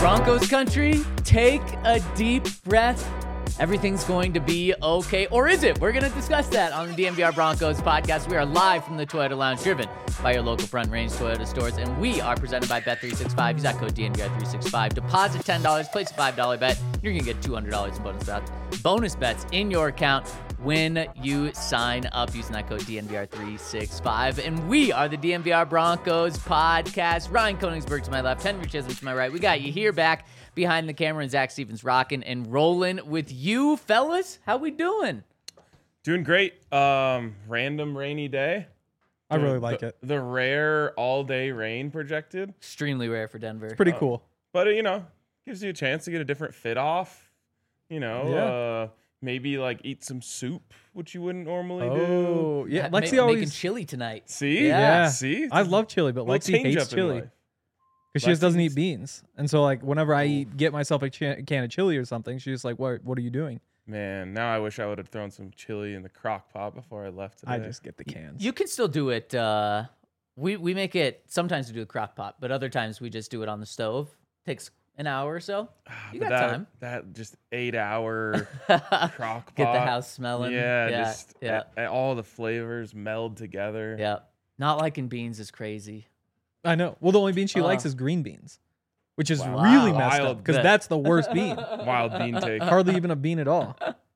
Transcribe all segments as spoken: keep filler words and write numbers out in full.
Broncos country, take a deep breath. Everything's going to be okay. Or is it? We're going to discuss that on the D N V R Broncos podcast. We are live from the Toyota Lounge, driven by your local Front Range Toyota stores. And we are presented by Bet three sixty-five. Use that code D N V R three sixty-five. Deposit ten dollars, place a five dollar bet. You're going to get two hundred dollars in bonus bets. Bonus bets in your account when you sign up using that code D N V R three sixty-five. And we are the D N V R Broncos podcast. Ryan Koenigsberg to my left, Henry Chisholm to my right. We got you here back behind the camera, and Zach Stevens rocking and rolling with you, fellas. How we doing? Doing great. Um, random rainy day. I really the, like the, it. The rare all-day rain projected. Extremely rare for Denver. It's pretty Uh, cool. But, uh, you know, gives you a chance to get a different fit off. You know, Yeah. uh, maybe, like, eat some soup, which you wouldn't normally do. Oh, yeah. Ma- Lexi ma- always... making chili tonight. See? Yeah. See? I love chili, but Little Lexi change hates up in chili. life. Because she just doesn't Lexi's- eat beans. And so, like, whenever I eat, get myself a cha- can of chili or something, she's just like, what What are you doing? Man, now I wish I would have thrown some chili in the crock pot before I left today. I just get the cans. You can still do it. Uh, we, we make it, sometimes we do a crock pot, but other times we just do it on the stove. Takes an hour or so. Ah, You but got that, time. That just eight-hour crock pot. Get the house smelling. Yeah, yeah, just yeah. a- a- all the flavors meld together. yeah. Not liking beans is crazy. I know. Well, the only bean she Uh. likes is green beans, which is Wow. really messed Wild up because bet. that's the worst bean. Wild bean take. Hardly even a bean at all.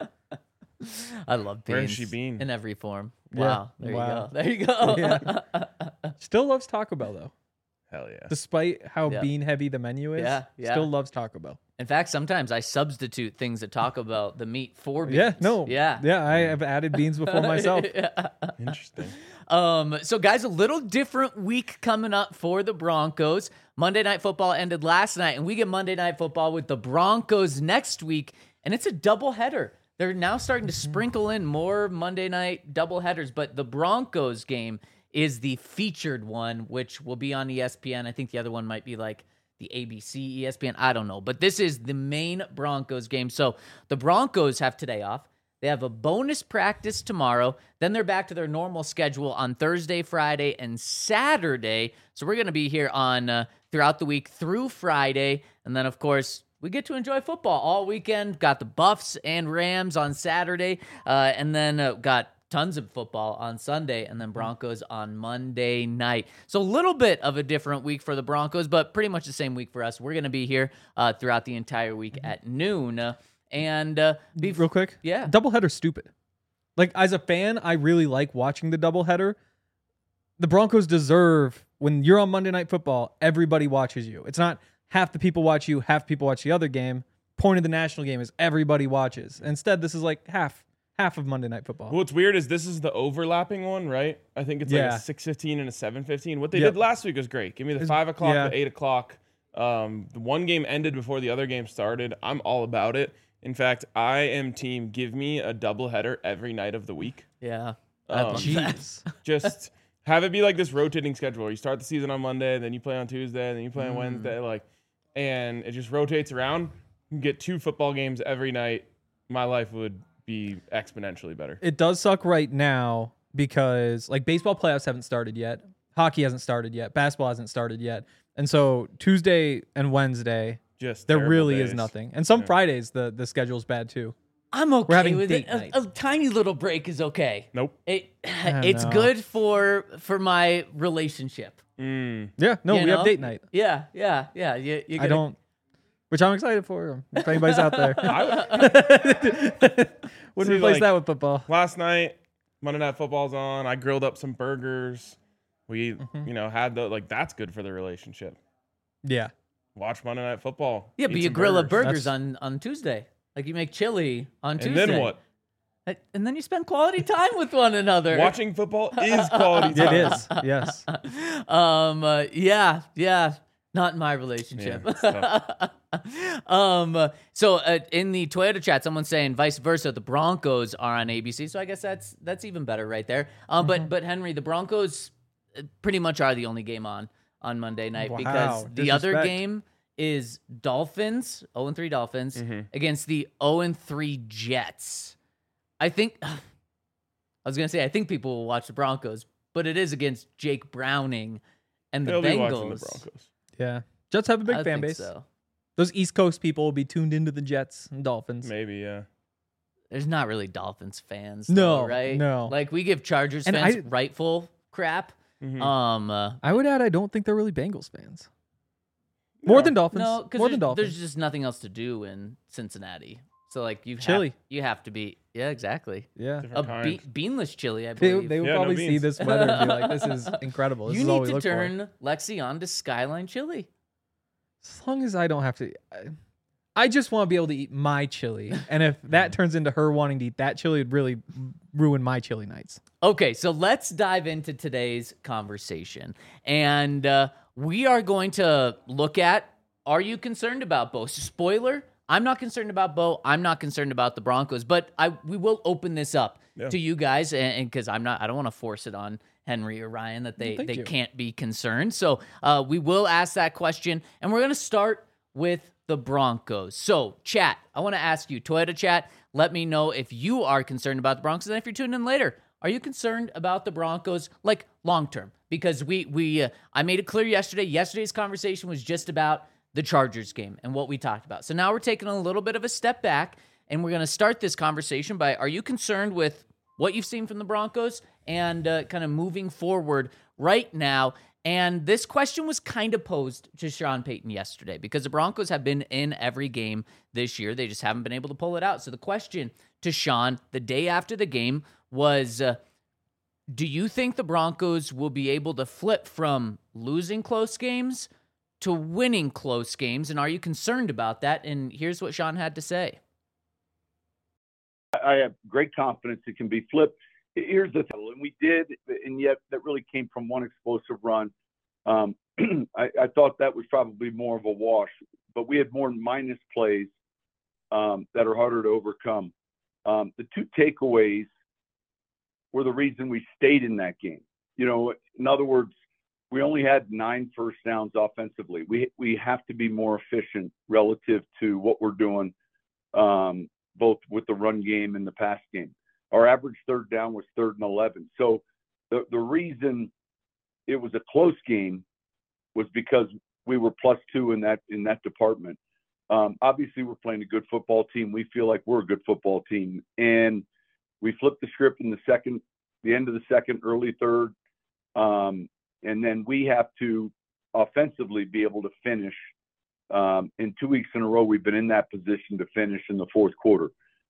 I love beans. Where's she been? In every form. Yeah. Wow. There Wow. you go. There you go. Yeah. Still loves Taco Bell, though. Hell yeah. Despite how Yeah. bean heavy the menu is, Yeah, yeah. still loves Taco Bell. In fact, sometimes I substitute things at Taco Bell, the meat for beans. Yeah, no. Yeah. Yeah, I have added beans before myself. Interesting. Um, so guys, a little different week coming up for the Broncos. Monday Night Football ended last night, and we get Monday Night Football with the Broncos next week, and it's a doubleheader. They're now starting to sprinkle in more Monday night doubleheaders, but the Broncos game is the featured one, which will be on E S P N. I think the other one might be like the A B C, E S P N. I don't know, but this is the main Broncos game. So the Broncos have today off. They have a bonus practice tomorrow. Then they're back to their normal schedule on Thursday, Friday, and Saturday. So we're going to be here on uh, throughout the week through Friday. And then, of course, we get to enjoy football all weekend. Got the Buffs and Rams on Saturday. Uh, and then uh, got tons of football on Sunday. And then Broncos on Monday night. So a little bit of a different week for the Broncos, but pretty much the same week for us. We're going to be here uh, throughout the entire week at noon. Uh, And uh, be Real quick, yeah. doubleheader's stupid. Like, as a fan, I really like watching the doubleheader. The Broncos deserve, when you're on Monday Night Football, everybody watches you. It's not half the people watch you, half people watch the other game. Point of the national game is everybody watches. Instead, this is like half half of Monday Night Football. What's weird is this is the overlapping one, right? I think it's like Yeah. a six fifteen and a seven fifteen. What they Yep. did last week was great. Give me the It's- five o'clock, yeah. the eight o'clock. Um, the one game ended before the other game started. I'm all about it. In fact, I am team give me a doubleheader every night of the week. Yeah. Um, I'd love that. Jeez. Just have it be like this rotating schedule where you start the season on Monday, then you play on Tuesday, then you play on Mm. Wednesday, like, and it just rotates around. You can get two football games every night. My life would be exponentially better. It does suck right now because, like, baseball playoffs haven't started yet. Hockey hasn't started yet. Basketball hasn't started yet. And so Tuesday and Wednesday, Just there terrible really is days. nothing. And some Yeah. Fridays, the, the schedule's bad too. I'm okay having with it. date night. A, a tiny little break is okay. Nope. It I it's know. good for for my relationship. Mm. Yeah, no, You we know? have date night. Yeah, yeah, yeah. You, you I don't, which I'm excited for. If anybody's out there, wouldn't See, replace like- that with football. Last night, Monday Night Football's on. I grilled up some burgers. We, Mm-hmm. you know, had the like. That's good for the relationship. Yeah, Watch Monday Night Football. Yeah, eat but you some grill up burgers. burgers on on Tuesday. Like you make chili on And Tuesday. then what? And- And then you spend quality time with one another. Watching football is quality time. it is. Yes, Um. Uh, yeah. Yeah. Not in my relationship. Yeah, it's tough. um. uh, So uh, in the Toyota chat, someone's saying vice versa. The Broncos are on A B C, so I guess that's that's even better right there. Um. But but Henry, the Broncos uh, pretty much are the only game on on Monday night Wow, because the other disrespect. game is Dolphins, oh and three Dolphins, Mhm. against the oh and three Jets. I think I was gonna say I think people will watch the Broncos, but it is against Jake Browning and the They'll be watching the Bengals. Broncos. yeah. Jets have a big I fan think base. so. Those East Coast people will be tuned into the Jets and Dolphins. Maybe, yeah. There's not really Dolphins fans, No, though, right? no. Like we give Chargers And fans I- rightful crap. Mhm. Um, uh, I would add, I don't think they're really Bengals fans. More No. than Dolphins. no, because More there's, than Dolphins. there's just nothing else to do in Cincinnati. So like you Chili. have, you have to be yeah exactly yeah. a Different be- kind. beanless chili. I They, believe. they would Yeah, no probably see beans. this weather and be like, this is incredible. This you is all need we to look for. turn Lexi on to Skyline Chili. As long as I don't have to. I, I just want to be able to eat my chili. And if that turns into her wanting to eat that chili, it'd really ruin my chili nights. Okay, so let's dive into today's conversation. And uh, we are going to look at, are you concerned about Bo? Spoiler, I'm not concerned about Bo. I'm not concerned about the Broncos. But I we will open this up Yeah. to you guys, and because I'm not, I don't want to force it on Henry or Ryan that they, thank they you. can't be concerned. So uh, we will ask that question, and we're going to start with the Broncos. So, chat, I want to ask you, Toyota chat, let me know if you are concerned about the Broncos, and if you're tuning in later, are you concerned about the Broncos, like, long-term? Because we, we uh, I made it clear yesterday, yesterday's conversation was just about the Chargers game and what we talked about. So now we're taking a little bit of a step back, and we're going to start this conversation by, are you concerned with what you've seen from the Broncos and uh, kind of moving forward right now? And this question was kind of posed to Sean Payton yesterday because the Broncos have been in every game this year. They just haven't been able to pull it out. So the question to Sean the day after the game was, uh, do you think the Broncos will be able to flip from losing close games to winning close games? And are you concerned about that? And here's what Sean had to say. I have great confidence it can be flipped. Here's the thing, and we did, and yet that really came from one explosive run. Um, I, I thought that was probably more of a wash, but we had more minus plays um, that are harder to overcome. Um, the two takeaways were the reason we stayed in that game. You know, in other words, we only had nine first downs offensively. We we have to be more efficient relative to what we're doing, um, both with the run game and the pass game. Our average third down was third and eleven. So the, the reason it was a close game was because we were plus two in that in that department. Um, obviously, we're playing a good football team. We feel like we're a good football team. And we flipped the script in the second, the end of the second, early third. Um, and then we have to offensively be able to finish. Um, in two weeks in a row, we've been in that position to finish in the fourth quarter.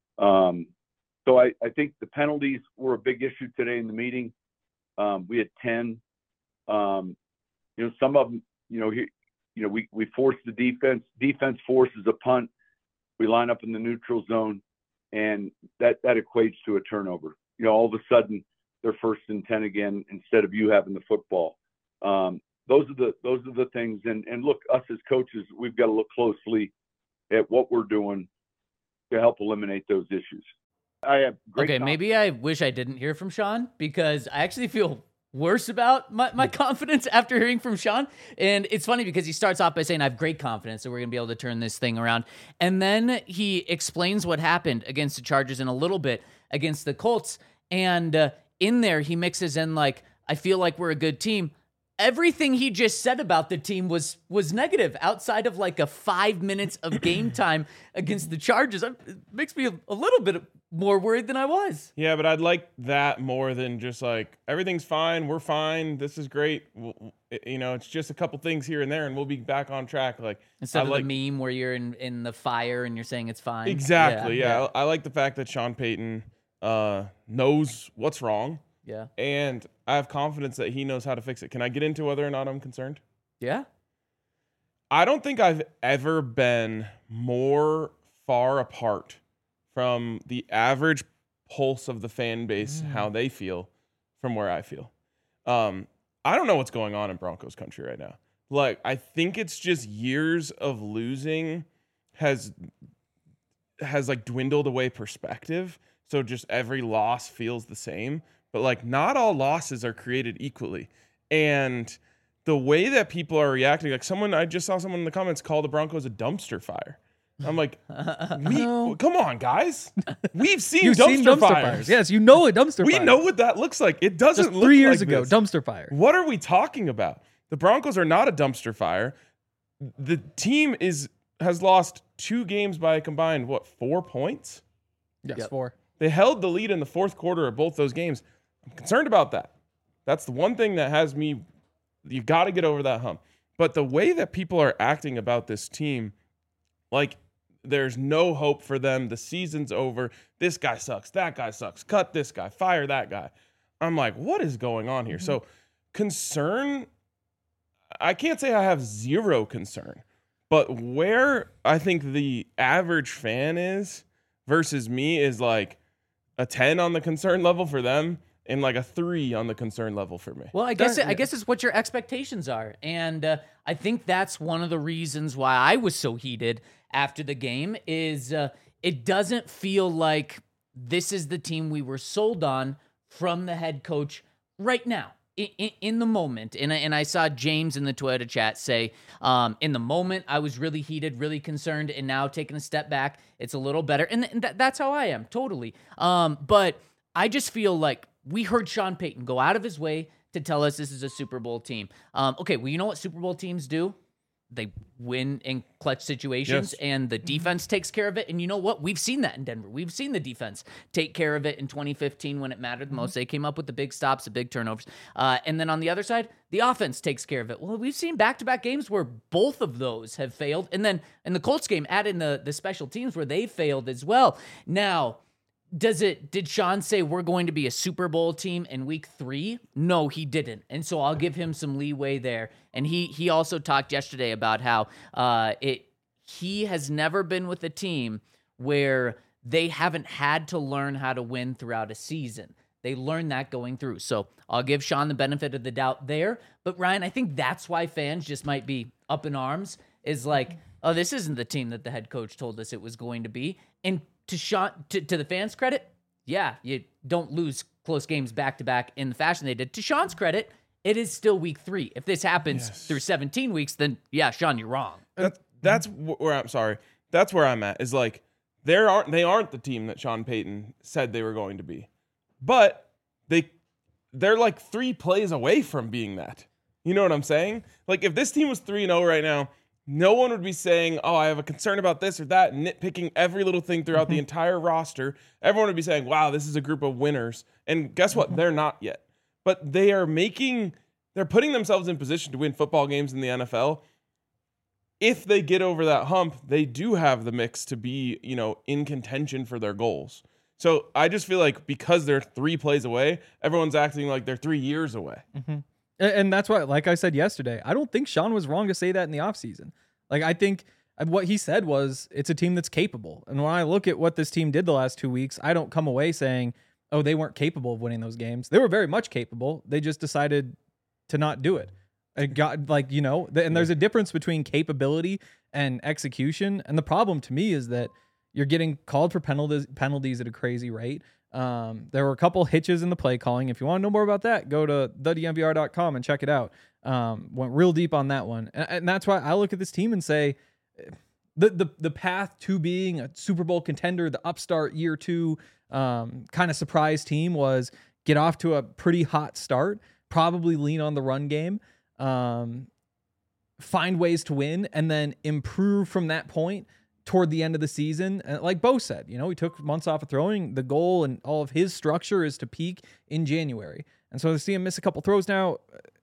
Um, So I, I think the penalties were a big issue today in the meeting. Um, we had ten. Um, you know, some of them, you know, he, you know, we, we forced the defense. Defense forces a punt. We line up in the neutral zone, and that, that equates to a turnover. You know, all of a sudden they're first and ten again instead of you having the football. Um, those are the those are the things. And and look, us as coaches, we've got to look closely at what we're doing to help eliminate those issues. I have great Okay, maybe I wish I didn't hear from Sean because I actually feel worse about my, my confidence after hearing from Sean. And it's funny because he starts off by saying, I have great confidence that we're going to be able to turn this thing around. And then he explains what happened against the Chargers in a little bit against the Colts. And uh, in there, he mixes in like, I feel like we're a good team. Everything he just said about the team was was negative outside of like a five minutes of game time against the Chargers. It makes me a, a little bit more worried than I was. Yeah, but I'd like that more than just like, everything's fine, we're fine, this is great. We'll, you know, it's just a couple things here and there, and we'll be back on track. Like Instead I of like, the meme where you're in, in the fire and you're saying it's fine. Exactly, yeah. I, I like the fact that Sean Payton uh, knows what's wrong. Yeah. And I have confidence that he knows how to fix it. Can I get into whether or not I'm concerned? Yeah. I don't think I've ever been more far apart from the average pulse of the fan base, Mm. how they feel, from where I feel. Um, I don't know what's going on in Broncos country right now. Like, I think it's just years of losing has has like dwindled away perspective. So just every loss feels the same. But like, not all losses are created equally. And the way that people are reacting, like someone, I just saw someone in the comments call the Broncos a dumpster fire. I'm like, we, No. come on, guys. We've seen, You've dumpster, seen dumpster fires. fires. Yes, you know a dumpster We fire. know what that looks like. It doesn't Just look three years like ago, this. dumpster fire. What are we talking about? The Broncos are not a dumpster fire. The team is has lost two games by a combined, what, four points? Yes, Yep. four. They held the lead in the fourth quarter of both those games. I'm concerned about that. That's the one thing that has me, you've got to get over that hump. But the way that people are acting about this team, like there's no hope for them. The season's over. This guy sucks. That guy sucks. Cut this guy. Fire that guy. I'm like, what is going on here? Mm-hmm. So concern, I can't say I have zero concern, but where I think the average fan is versus me is like a ten on the concern level for them and like a three on the concern level for me. Well, I guess it, I guess it's what your expectations are, and uh, I think that's one of the reasons why I was so heated after the game. Is uh, it doesn't feel like this is the team we were sold on from the head coach right now in, in, in the moment. And I, and I saw James in the Toyota chat say, um, in the moment I was really heated, really concerned, and now taking a step back, it's a little better, and, th- and that's how I am totally. Um, but I just feel like we heard Sean Payton go out of his way to tell us this is a Super Bowl team. Um, okay, well, you know what Super Bowl teams do? They win in clutch situations, yes. and the defense takes care of it. And you know what? We've seen that in Denver. We've seen the defense take care of it in twenty fifteen when it mattered the most. They came up with the big stops, the big turnovers. Uh, and then on the other side, the offense takes care of it. Well, we've seen back-to-back games where both of those have failed. And then in the Colts game, add in the, the special teams where they failed as well. Now, Does it? Did Sean say we're going to be a Super Bowl team in week three? No, he didn't. And so I'll give him some leeway there. And he he also talked yesterday about how uh, it he has never been with a team where they haven't had to learn how to win throughout a season. They learned that going through. So I'll give Sean the benefit of the doubt there. But Ryan, I think that's why fans just might be up in arms, is like, oh, this isn't the team that the head coach told us it was going to be. And To Sean, to, to the fans' credit, yeah, you don't lose close games back to back in the fashion they did. To Sean's credit, it is still week three. If this happens yes. through seventeen weeks, then yeah, Sean, you're wrong. That's that's where I'm sorry. That's where I'm at. Is like there aren't they aren't the team that Sean Payton said they were going to be, but they they're like three plays away from being that. You know what I'm saying? Like if this team was three and zero right now, no one would be saying, oh, I have a concern about this or that, nitpicking every little thing throughout mm-hmm. the entire roster. Everyone would be saying, wow, this is a group of winners. And guess what? Mm-hmm. They're not yet. But they are making, they're putting themselves in position to win football games in the N F L. If they get over that hump, they do have the mix to be, you know, in contention for their goals. So I just feel like because they're three plays away, everyone's acting like they're three years away. Mm-hmm. And that's why, like I said yesterday, I don't think Sean was wrong to say that in the offseason. Like, I think what he said was it's a team that's capable. And when I look at what this team did the last two weeks, I don't come away saying, oh, they weren't capable of winning those games. They were very much capable. They just decided to not do it. It got, like, you know, and there's a difference between capability and execution. And the problem to me is that you're getting called for penalties, penalties at a crazy rate. Um, there were a couple hitches in the play calling. If you want to know more about that, go to the d m v r dot com and check it out. Um, went real deep on that one. And, and that's why I look at this team and say the, the, the path to being a Super Bowl contender, the upstart year two, um, kind of surprise team was get off to a pretty hot start, probably lean on the run game, um, find ways to win, and then improve from that point toward the end of the season. And like Bo said, you know, he took months off of throwing. The goal and all of his structure is to peak in January. And so to see him miss a couple throws now,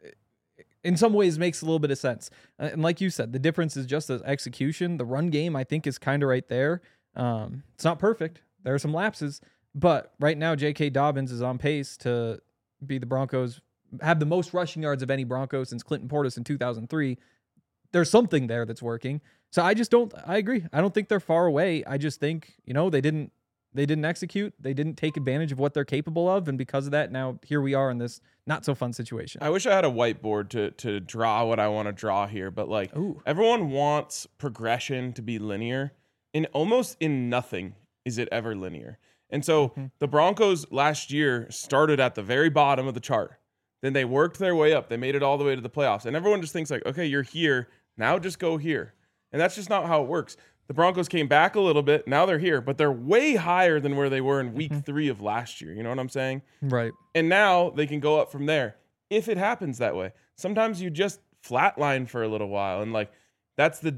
in some ways makes a little bit of sense. And like you said, the difference is just the execution. The run game, I think, is kind of right there. Um, it's not perfect. There are some lapses, but right now J K. Dobbins is on pace to be the Broncos, have the most rushing yards of any Bronco since Clinton Portis in two thousand three. There's something there that's working. So I just don't, I agree. I don't think they're far away. I just think, you know, they didn't, they didn't execute. They didn't take advantage of what they're capable of. And because of that, now here we are in this not so fun situation. I wish I had a whiteboard to, to draw what I want to draw here, but like Ooh. Everyone wants progression to be linear, and almost in nothing is it ever linear. And so mm-hmm. the Broncos last year started at the very bottom of the chart. Then they worked their way up. They made it all the way to the playoffs. And everyone just thinks like, okay, you're here. Now just go here. And that's just not how it works. The Broncos came back a little bit. Now they're here, but they're way higher than where they were in week mm-hmm. three of last year. You know what I'm saying? Right. And now they can go up from there if it happens that way. Sometimes you just flatline for a little while. And like, that's the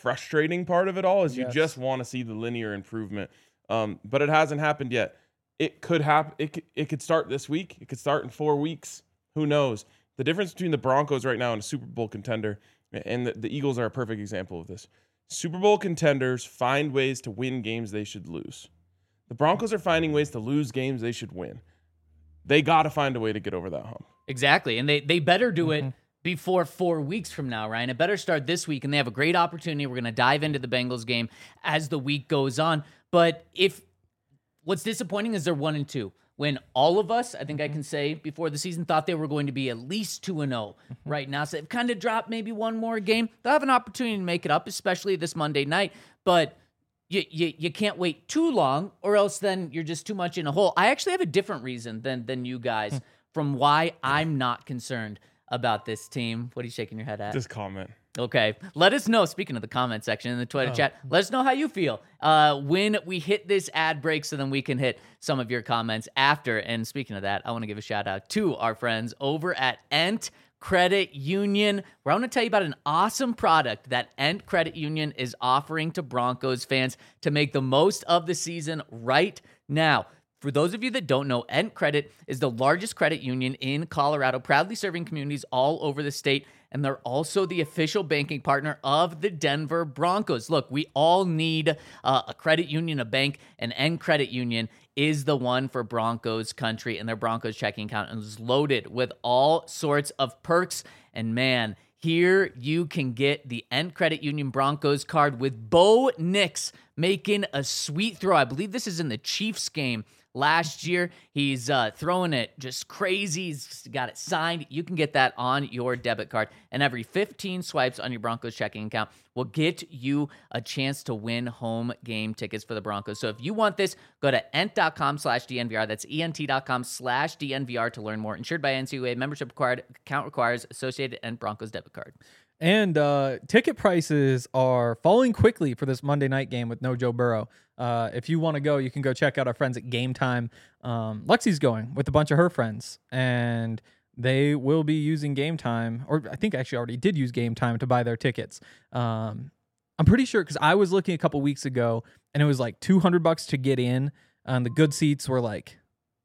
frustrating part of it all is you Yes. just want to see the linear improvement. Um, but it hasn't happened yet. It could happen. It could, it could start this week. It could start in four weeks. Who knows? The difference between the Broncos right now and a Super Bowl contender, and the, the Eagles are a perfect example of this. Super Bowl contenders find ways to win games they should lose. The Broncos are finding ways to lose games they should win. They got to find a way to get over that hump. Exactly. And they, they better do it before four weeks from now, Ryan. It better start this week, and they have a great opportunity. We're going to dive into the Bengals game as the week goes on. But if what's disappointing is they're one and two. When all of us, I think I can say before the season, thought they were going to be at least two and oh right now. So they've kind of dropped maybe one more game. They'll have an opportunity to make it up, especially this Monday night. But you, you you can't wait too long, or else then you're just too much in a hole. I actually have a different reason than than you guys from why I'm not concerned about this team. What are you shaking your head at? Just comment. Okay. Let us know, speaking of the comment section in the Twitter chat, let us know how you feel uh, when we hit this ad break so then we can hit some of your comments after. And speaking of that, I want to give a shout out to our friends over at Ent Credit Union, where I want to tell you about an awesome product that Ent Credit Union is offering to Broncos fans to make the most of the season right now. For those of you that don't know, Ent Credit is the largest credit union in Colorado, proudly serving communities all over the state, and they're also the official banking partner of the Denver Broncos. Look, we all need uh, a credit union, a bank, and Ent Credit Union is the one for Broncos country, and their Broncos checking account is loaded with all sorts of perks, and man, here you can get the Ent Credit Union Broncos card with Bo Nix making a sweet throw. I believe this is in the Chiefs game last year. He's uh, throwing it just crazy. He's got it signed. You can get that on your debit card. And every fifteen swipes on your Broncos checking account will get you a chance to win home game tickets for the Broncos. So if you want this, go to ent.com slash DNVR. That's ent.com slash DNVR to learn more. Insured by N C U A. Membership required. Account requires associated Ent Broncos debit card. And uh, ticket prices are falling quickly for this Monday night game with no Joe Burrow. Uh, if you want to go, you can go check out our friends at Game Time. Um, Lexi's going with a bunch of her friends, and they will be using Game Time, or I think actually already did use Game Time to buy their tickets. Um, I'm pretty sure because I was looking a couple weeks ago, and it was like two hundred bucks to get in, and the good seats were like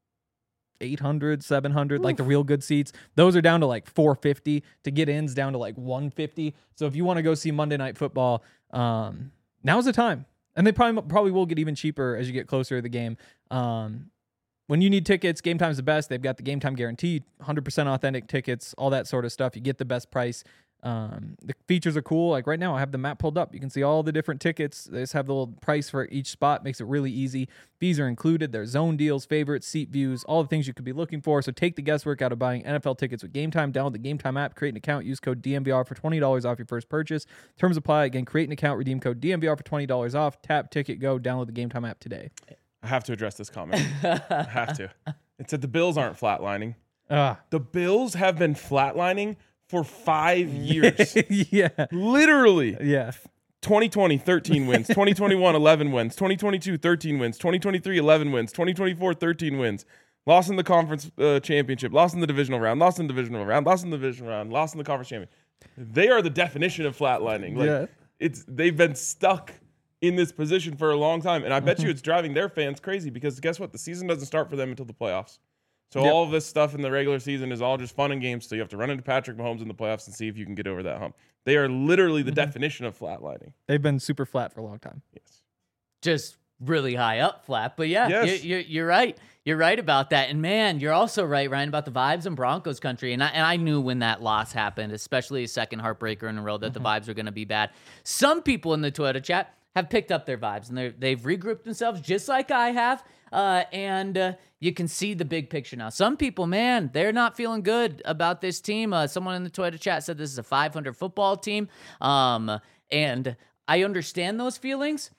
eight hundred, seven hundred, Oof. Like the real good seats. Those are down to like four fifty. To get in's down to like one fifty. So if you want to go see Monday Night Football, um, now's the time. And they probably probably will get even cheaper as you get closer to the game. Um, when you need tickets, Game Time's the best. They've got the Game Time guarantee, one hundred percent authentic tickets, all that sort of stuff. You get the best price. Um, the features are cool. Like right now, I have the map pulled up. You can see all the different tickets. They just have the little price for each spot. Makes it really easy. Fees are included. There's zone deals, favorites, seat views, all the things you could be looking for. So take the guesswork out of buying N F L tickets with Game Time. Download the Game Time app, create an account, use code D N V R for twenty dollars off your first purchase. Terms apply. Again, create an account, redeem code D N V R for twenty dollars off. Tap, ticket, go. Download the Game Time app today. I have to address this comment. I have to. It said the Bills aren't flatlining. Uh. The Bills have been flatlining for five years. Yeah. Literally. Yeah. twenty twenty, thirteen wins. twenty twenty-one, eleven wins. twenty twenty-two, thirteen wins. twenty twenty-three, eleven wins. twenty twenty-four, thirteen wins. Lost in the conference uh, championship. Lost in the divisional round. Lost in the divisional round. Lost in the divisional round. Lost in the conference championship. They are the definition of flatlining. Like, yeah. it's they've been stuck in this position for a long time. And I bet you it's driving their fans crazy because guess what? The season doesn't start for them until the playoffs. So yep. all of this stuff in the regular season is all just fun and games. So you have to run into Patrick Mahomes in the playoffs and see if you can get over that hump. They are literally the mm-hmm. definition of flatlining. They've been super flat for a long time. Yes. Just really high up flat. But yeah, yes. you, you, you're right. You're right about that. And man, you're also right, Ryan, about the vibes in Broncos country. And I, and I knew when that loss happened, especially a second heartbreaker in a row, that mm-hmm. the vibes were going to be bad. Some people in the Twitter chat have picked up their vibes, and they've regrouped themselves just like I have. Uh, and uh, you can see the big picture now. Some people, man, they're not feeling good about this team. Uh, someone in the Twitter chat said this is a five hundred football team. Um, and I understand those feelings.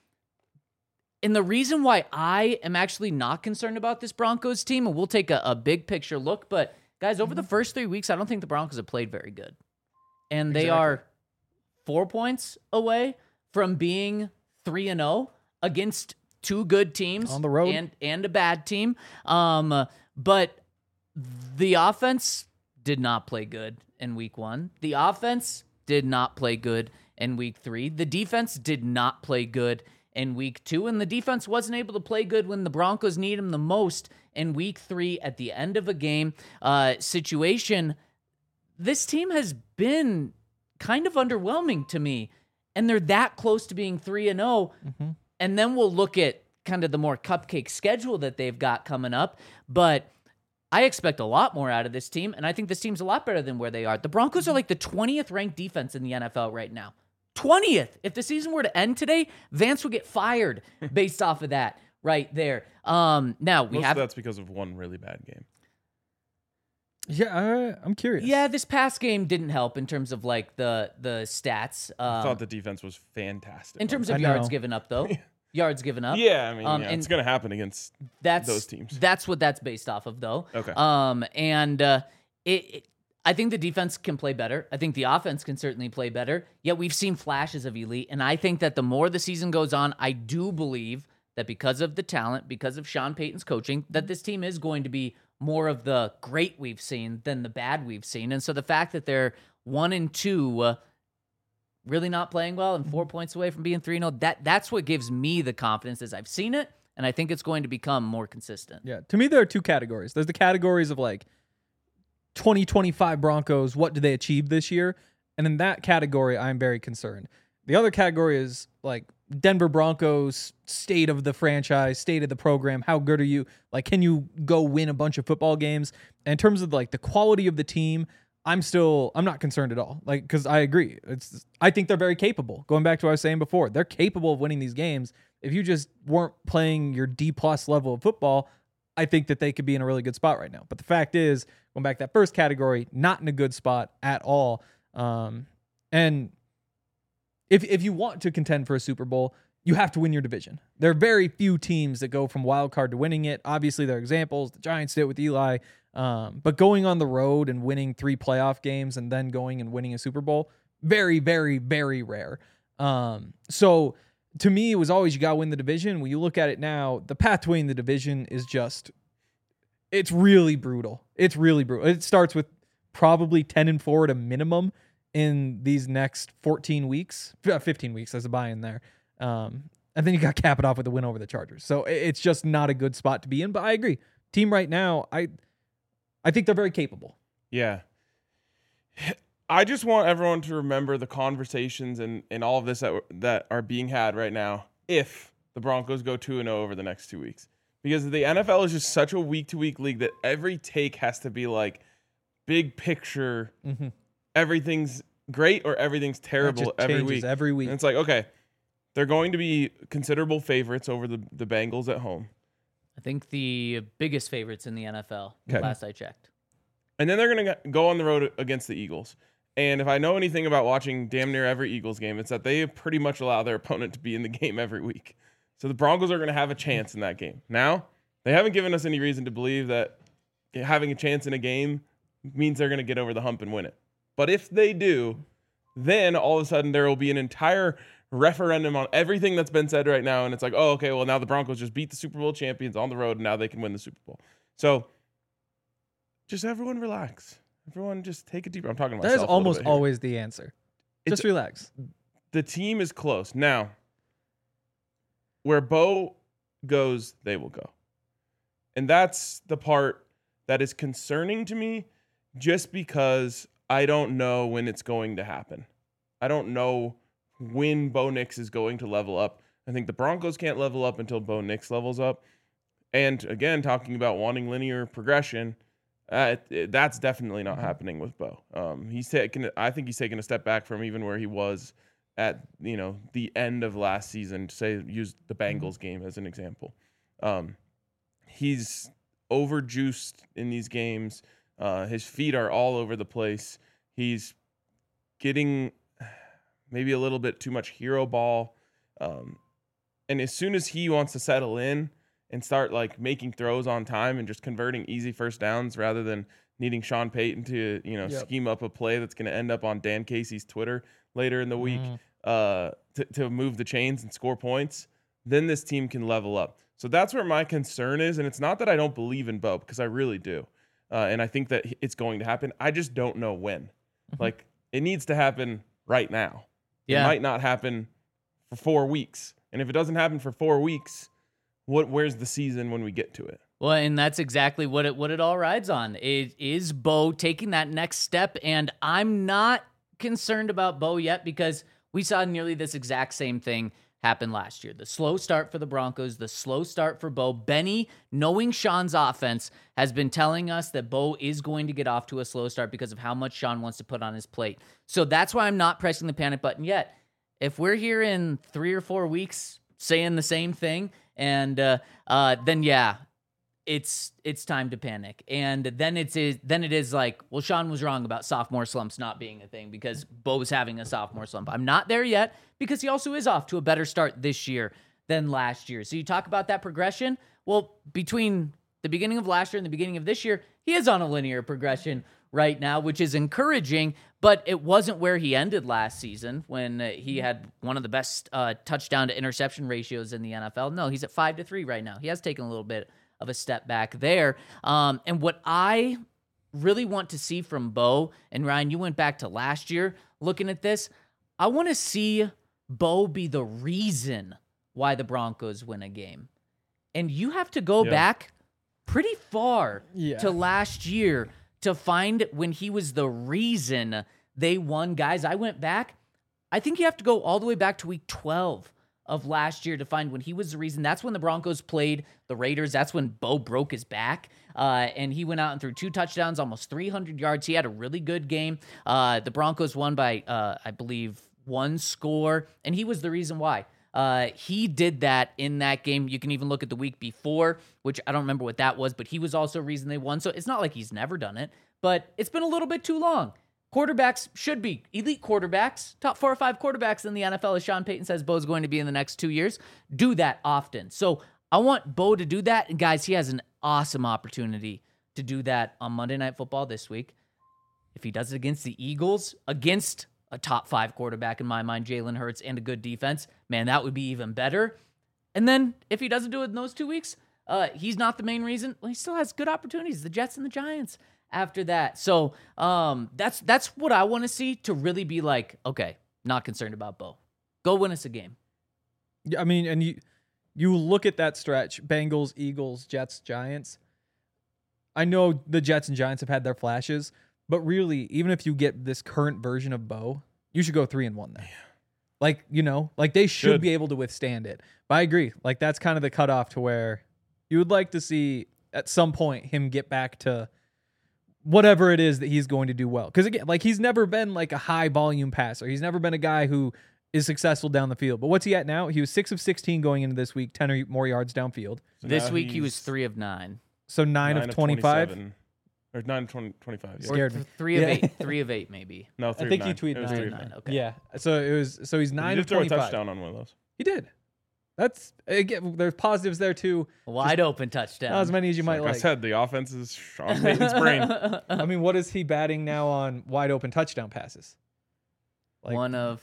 And the reason why I am actually not concerned about this Broncos team, and we'll take a, a big picture look, but guys, over the first three weeks, I don't think the Broncos have played very good. And they exactly. are four points away from being three and oh against two good teams on the road and, and a bad team. Um, but the offense did not play good in week one. The offense did not play good in week three. The defense did not play good in week two, and the defense wasn't able to play good when the Broncos need them the most in week three at the end of a game uh, situation. This team has been kind of underwhelming to me, and they're that close to being three and oh. Mm-hmm. And then we'll look at kind of the more cupcake schedule that they've got coming up. But I expect a lot more out of this team, and I think this team's a lot better than where they are. The Broncos are like the twentieth ranked defense in the N F L right now. twentieth. If the season were to end today, Vance would get fired based off of that right there. Um, now, we Most have... of that's because of one really bad game. Yeah, uh, I'm curious. Yeah, this past game didn't help in terms of like the the stats. Um, I thought the defense was fantastic. in terms I of yards know. given up, though. Yards given up. Yeah, I mean, Um, yeah, and it's going to happen against that's those teams. That's what that's based off of, though. Okay. Um, and uh, it, it, I think the defense can play better. I think the offense can certainly play better. Yet we've seen flashes of elite, and I think that the more the season goes on, I do believe that because of the talent, because of Sean Payton's coaching, that this team is going to be more of the great we've seen than the bad we've seen. And so the fact that they're one and two. Uh, really not playing well and four points away from being three and oh, that, that's what gives me the confidence as I've seen it, and I think it's going to become more consistent. Yeah. To me, there are two categories. There's the categories of like twenty twenty-five Broncos, what do they achieve this year? And in that category, I'm very concerned. The other category is like Denver Broncos, state of the franchise, state of the program. How good are you? Like, can you go win a bunch of football games? And in terms of like the quality of the team, I'm still, I'm not concerned at all. Like, because I agree. It's, I think they're very capable. Going back to what I was saying before, they're capable of winning these games. If you just weren't playing your D plus level of football, I think that they could be in a really good spot right now. But the fact is, going back to that first category, not in a good spot at all. Um, and if if you want to contend for a Super Bowl, you have to win your division. There are very few teams that go from wild card to winning it. Obviously, there are examples. The Giants did it with Eli. Um, but going on the road and winning three playoff games and then going and winning a Super Bowl, very, very, very rare. Um, so to me, it was always you got to win the division. When you look at it now, the path to winning the division is just, it's really brutal. It's really brutal. It starts with probably ten and four at a minimum in these next fourteen weeks, fifteen weeks. There's a buy in there. Um, and then you got to cap it off with a win over the Chargers. So it's just not a good spot to be in. But I agree. Team right now, I I think they're very capable. Yeah. I just want everyone to remember the conversations and, and all of this that, that are being had right now if the Broncos go two and oh over the next two weeks. Because the N F L is just such a week-to-week league that every take has to be like big picture, Mm-hmm. everything's great or everything's terrible every week. Every week. And it's like, okay, they're going to be considerable favorites over the, the Bengals at home. I think the biggest favorites in the N F L, Okay. last I checked. And then they're going to go on the road against the Eagles. And if I know anything about watching damn near every Eagles game, it's that they pretty much allow their opponent to be in the game every week. So the Broncos are going to have a chance in that game. Now, they haven't given us any reason to believe that having a chance in a game means they're going to get over the hump and win it. But if they do, then all of a sudden there will be an entire referendum on everything that's been said right now. And it's like, oh, okay, well, now the Broncos just beat the Super Bowl champions on the road, and now they can win the Super Bowl. So just everyone relax. Everyone just take a deep breath. I'm talking to That myself. is a little almost bit here. always the answer. It's- Just relax. The team is close. Now, where Bo goes, they will go. And that's the part that is concerning to me just because I don't know when it's going to happen. I don't know when Bo Nix is going to level up. I think the Broncos can't level up until Bo Nix levels up. And again, talking about wanting linear progression, uh, it, it, that's definitely not happening with Bo. Um, he's taken. I think he's taken a step back from even where he was at, you know, the end of last season. To say, use the Bengals game as an example. Um, he's overjuiced in these games. Uh, his feet are all over the place. He's getting maybe a little bit too much hero ball. Um, and as soon as he wants to settle in and start like making throws on time and just converting easy first downs rather than needing Sean Payton to, you know, Yep. scheme up a play that's going to end up on Dan Casey's Twitter later in the week Mm. uh, to, to move the chains and score points, then this team can level up. So that's where my concern is. And it's not that I don't believe in Bo, because I really do. Uh, and I think that it's going to happen. I just don't know when. Mhm. Like, it needs to happen right now. Yeah. It might not happen for four weeks. And if it doesn't happen for four weeks, what where's the season when we get to it? Well, and that's exactly what it what it all rides on. It is Bo taking that next step, and I'm not concerned about Bo yet because we saw nearly this exact same thing happen last year. The slow start for the Broncos, the slow start for Bo. Benny, knowing Sean's offense, has been telling us that Bo is going to get off to a slow start because of how much Sean wants to put on his plate. So that's why I'm not pressing the panic button yet. If we're here in three or four weeks saying the same thing, and uh, uh, then yeah, it's it's time to panic. And then it's is then it is like, well, Sean was wrong about sophomore slumps not being a thing because Bo's having a sophomore slump. I'm not there yet because he also is off to a better start this year than last year. So you talk about that progression. Well, between the beginning of last year and the beginning of this year, he is on a linear progression right now, which is encouraging, but it wasn't where he ended last season when uh, he had one of the best uh, touchdown to interception ratios in the N F L. No, he's at five to three right now. He has taken a little bit of a step back there. Um, and what I really want to see from Bo, and Ryan, you went back to last year looking at this, I want to see Bo be the reason why the Broncos win a game. And you have to go Yeah. back pretty far Yeah. to last year to find when he was the reason they won. Guys, I went back. I think you have to go all the way back to week twelve of last year to find when he was the reason. That's when the Broncos played the Raiders. That's when Bo broke his back, uh, and he went out and threw two touchdowns, almost three hundred yards. He had a really good game. Uh, the Broncos won by, uh, I believe, one score, and he was the reason why. Uh, he did that in that game. You can even look at the week before, which I don't remember what that was, but he was also a reason they won. So it's not like he's never done it, but it's been a little bit too long. Quarterbacks should be elite quarterbacks, top four or five quarterbacks in the N F L, as Sean Payton says Bo's going to be in the next two years, do that often. So I want Bo to do that. And guys, he has an awesome opportunity to do that on Monday Night Football this week. If he does it against the Eagles, against a top five quarterback in my mind, Jalen Hurts, and a good defense, man, that would be even better. And then if he doesn't do it in those two weeks, uh, he's not the main reason. Well, he still has good opportunities, the Jets and the Giants after that. So um, that's that's what I want to see to really be like, okay, not concerned about Bo. Go win us a game. Yeah, I mean, and you you look at that stretch, Bengals, Eagles, Jets, Giants. I know the Jets and Giants have had their flashes, but really, even if you get this current version of Bo, you should go three and one there. Like, you know, like they should Should. be able to withstand it. But I agree. Like that's kind of the cutoff to where you would like to see at some point him get back to whatever it is that he's going to do well. Because again, like he's never been like a high volume passer. He's never been a guy who is successful down the field. But what's he at now? He was six of sixteen going into this week, ten or more yards downfield. So This now week he he's was three of nine. So nine, of twenty-five. twenty-seven. Or nine of twenty, twenty-five. Yeah. Scared or th- me. three of Yeah. eight. Three of eight, maybe. No, three I think of he nine. tweeted It was nine. three of Nine, nine. okay. Yeah. So it was. So he's He nine did of throw a twenty-five. touchdown on one of those. He did. That's again. There's positives there too. Wide open touchdown. Not as many as you might Like I like. said, the offense is Sean Payton's brain. I mean, what is he batting now on wide open touchdown passes? Like, One of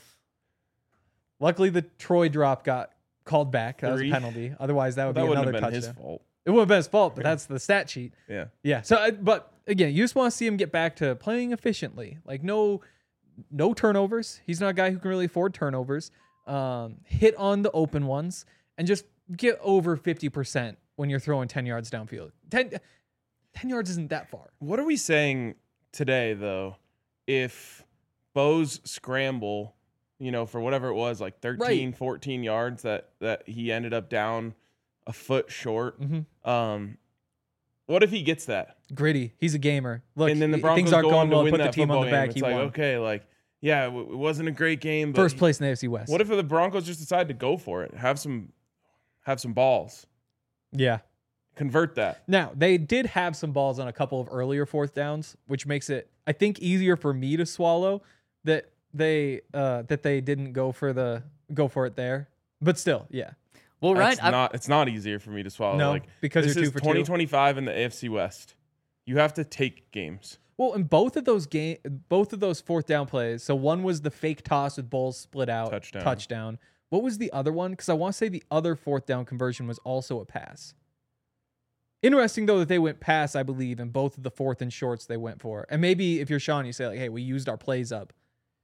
luckily the Troy drop got called back. That Three. was a penalty. Otherwise, that would that be wouldn't another have been touchdown. his fault. It would have been his fault, but that's the stat sheet. Yeah. Yeah. So, I- but again, you just want to see him get back to playing efficiently. Like no, no turnovers. He's not a guy who can really afford turnovers. Um, hit on the open ones and just get over fifty percent when you're throwing ten yards downfield. ten, ten yards isn't that far. What are we saying today, though, if Bo's scramble, you know, for whatever it was, like thirteen, Right. fourteen yards that, that he ended up down a foot short? Mm-hmm. Um, what if he gets that? Gritty. He's a gamer. Look, and then the he- Broncos things aren't go going on to well. win Put the that team on football the back. game. It's He like, won. okay, like, yeah, it w- it wasn't a great game, but First place in the A F C West. what if the Broncos just decide to go for it? Have some have some balls. Yeah. Convert that. Now, they did have some balls on a couple of earlier fourth downs, which makes it, I think, easier for me to swallow that they uh, that they didn't go for the go for it there. But still, yeah. well, right. It's I- not it's not easier for me to swallow. No, like because this you're two is for two. twenty twenty-five in the A F C West. You have to take games. Well, in both of those game, both of those fourth down plays. So one was the fake toss with balls split out, Touchdown. touchdown. What was the other one? Because I want to say the other fourth down conversion was also a pass. Interesting though that they went pass, I believe, in both of the fourth and shorts they went for. And maybe if you're Sean, you say like, "Hey, we used our plays up."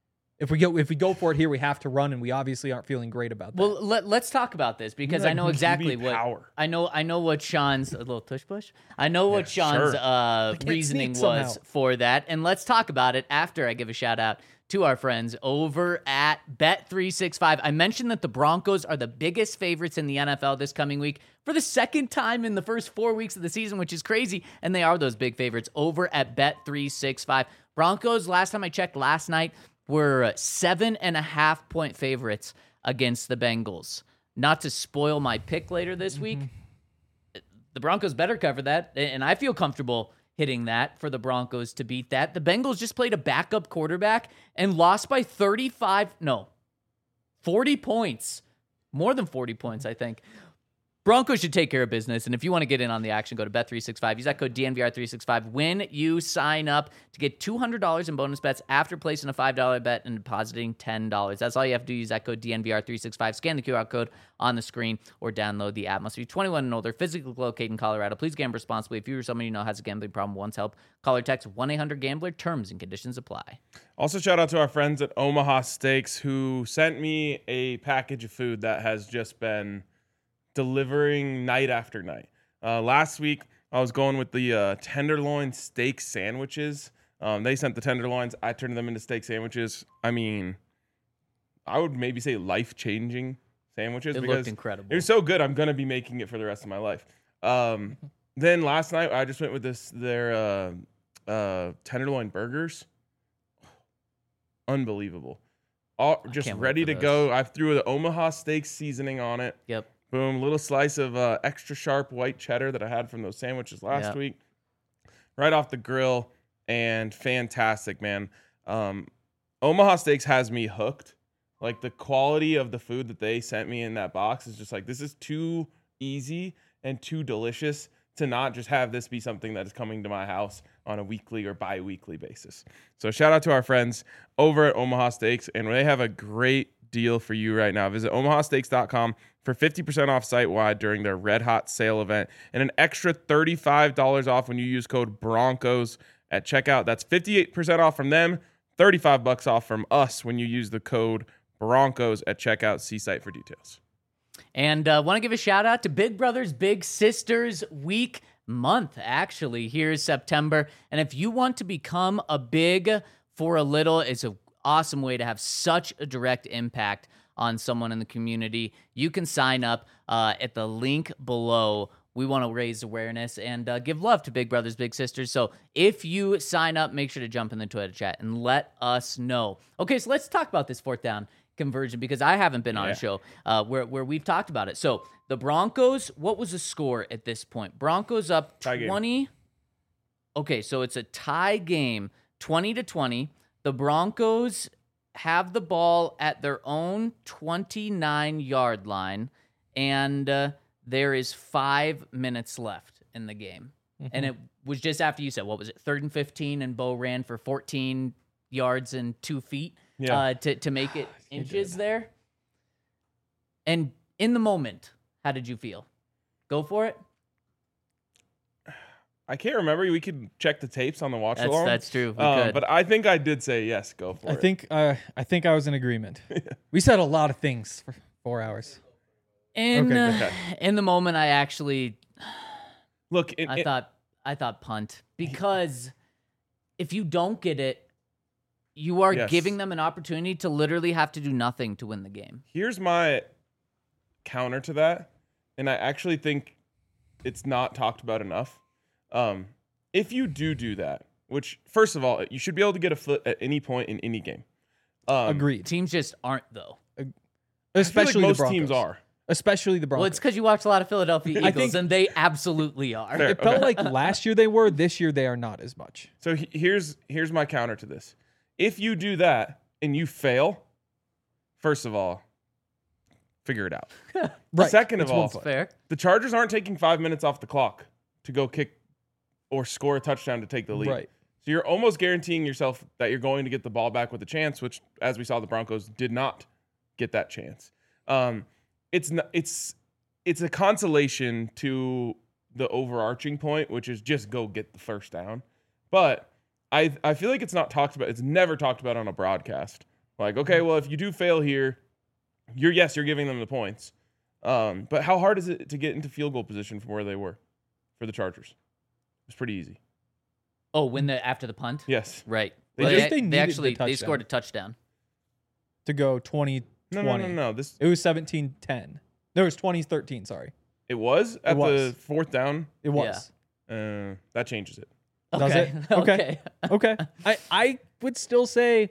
if we go if we go for it here, we have to run, and we obviously aren't feeling great about that. Well, let, let's talk about this because Like I know Q B exactly what power. I know. I know what Sean's a little tush push. I know what Yeah, Sean's sure. uh, can't reasoning sneak was somehow. for that, and let's talk about it after I give a shout out to our friends over at Bet three sixty-five. I mentioned that the Broncos are the biggest favorites in the N F L this coming week for the second time in the first four weeks of the season, which is crazy, and they are those big favorites over at Bet three sixty-five. Broncos, last time I checked last night, were seven and a half point favorites against the Bengals. Not to spoil my pick later this week, the Broncos better cover that, and I feel comfortable hitting that for the Broncos to beat that. The Bengals just played a backup quarterback and lost by thirty-five, no, forty points. More than forty points, I think. Broncos should take care of business, and if you want to get in on the action, go to Bet three sixty-five. Use that code D N V R three sixty-five when you sign up to get two hundred dollars in bonus bets after placing a five dollar bet and depositing ten dollars. That's all you have to do. Use that code D N V R three sixty-five. Scan the Q R code on the screen or download the app. Must be twenty-one and older, physically located in Colorado. Please gamble responsibly. If you or someone you know has a gambling problem, wants help, call or text one eight hundred gambler. Terms and conditions apply. Also, shout out to our friends at Omaha Steaks who sent me a package of food that has just been delivering night after night. Uh, last week, I was going with the uh, tenderloin steak sandwiches. Um, they sent the tenderloins. I turned them into steak sandwiches. I mean, I would maybe say life-changing sandwiches It because looked incredible. it was so good. I'm gonna be making it for the rest of my life. Um, then last night, I just went with this their uh, uh, tenderloin burgers. Unbelievable. All just can't wait ready for to those. go. I threw the Omaha steak seasoning on it. Yep. Boom, little slice of uh, extra sharp white cheddar that I had from those sandwiches last Yep. week. Right off the grill, and fantastic, man. Um, Omaha Steaks has me hooked. Like, the quality of the food that they sent me in that box is just like, this is too easy and too delicious to not just have this be something that is coming to my house on a weekly or bi-weekly basis. So shout out to our friends over at Omaha Steaks, and they have a great deal for you right now. Visit omaha steaks dot com for fifty percent off site-wide during their Red Hot sale event and an extra thirty-five dollars off when you use code Broncos at checkout. That's fifty-eight percent off from them, thirty-five bucks off from us when you use the code Broncos at checkout. See site for details. And uh, want to give a shout out to Big Brothers Big Sisters week month, actually. Here's September. And if you want to become a big for a little, it's an awesome way to have such a direct impact on someone in the community. You can sign up uh, at the link below. We want to raise awareness and uh, give love to Big Brothers Big Sisters. So if you sign up, make sure to jump in the Twitter chat and let us know. Okay, so let's talk about this fourth down conversion because I haven't been on Yeah. a show uh, where, where we've talked about it. So the Broncos, what was the score at this point? Broncos up Tie game. twenty. Okay, so it's a tie game, twenty to twenty. The Broncos have the ball at their own twenty-nine yard line, and uh, there is five minutes left in the game. And it was just after you said, what was it, third and fifteen, and Bo ran for fourteen yards and two feet Yeah. uh, to, to make it inches there. And in the moment, how did you feel? Go for it? I can't remember. We could check the tapes on the watch That's, along. that's true. We Um, could. but I think I did say yes. Go for I it. think uh, I think I was in agreement. We said a lot of things for four hours. in, Okay, uh, okay. in the moment, I actually Look, it, I it- thought I thought punt because if you don't get it, you are Yes. giving them an opportunity to literally have to do nothing to win the game. here's my counter to that, and I actually think it's not talked about enough. Um, if you do do that, which first of all, you should be able to get a foot at any point in any game. Um, Agreed. Teams just aren't though. Especially I feel like most the Broncos. teams are. Especially the Broncos. Well, it's because you watch a lot of Philadelphia I Eagles, think- and they absolutely are. Fair. It felt Okay. like last year they were. This year they are not as much. So he- here's here's my counter to this. If you do that and you fail, first of all, figure it out. Right. Second of It's one all, play. Fair. the Chargers aren't taking five minutes off the clock to go kick or score a touchdown to take the lead. Right. So you're almost guaranteeing yourself that you're going to get the ball back with a chance, which, as we saw, the Broncos did not get that chance. Um, it's not, it's it's a consolation to the overarching point, which is just go get the first down. But I I feel like it's not talked about. It's never talked about on a broadcast Like, okay, well, if you do fail here, you're yes, you're giving them the points. Um, but how hard is it to get into field goal position from where they were for the Chargers? It's pretty easy. Oh, when the after the punt? Yes. Right. They Well, just- they, They they needed the actually they touchdown. scored a touchdown. To go twenty No, twenty. no, no, no. This It was seventeen ten. No, it was twenty thirteen, sorry. it was at was. the fourth down. It was. Uh, that changes it. Does Okay. it? Okay. Okay. I, I would still say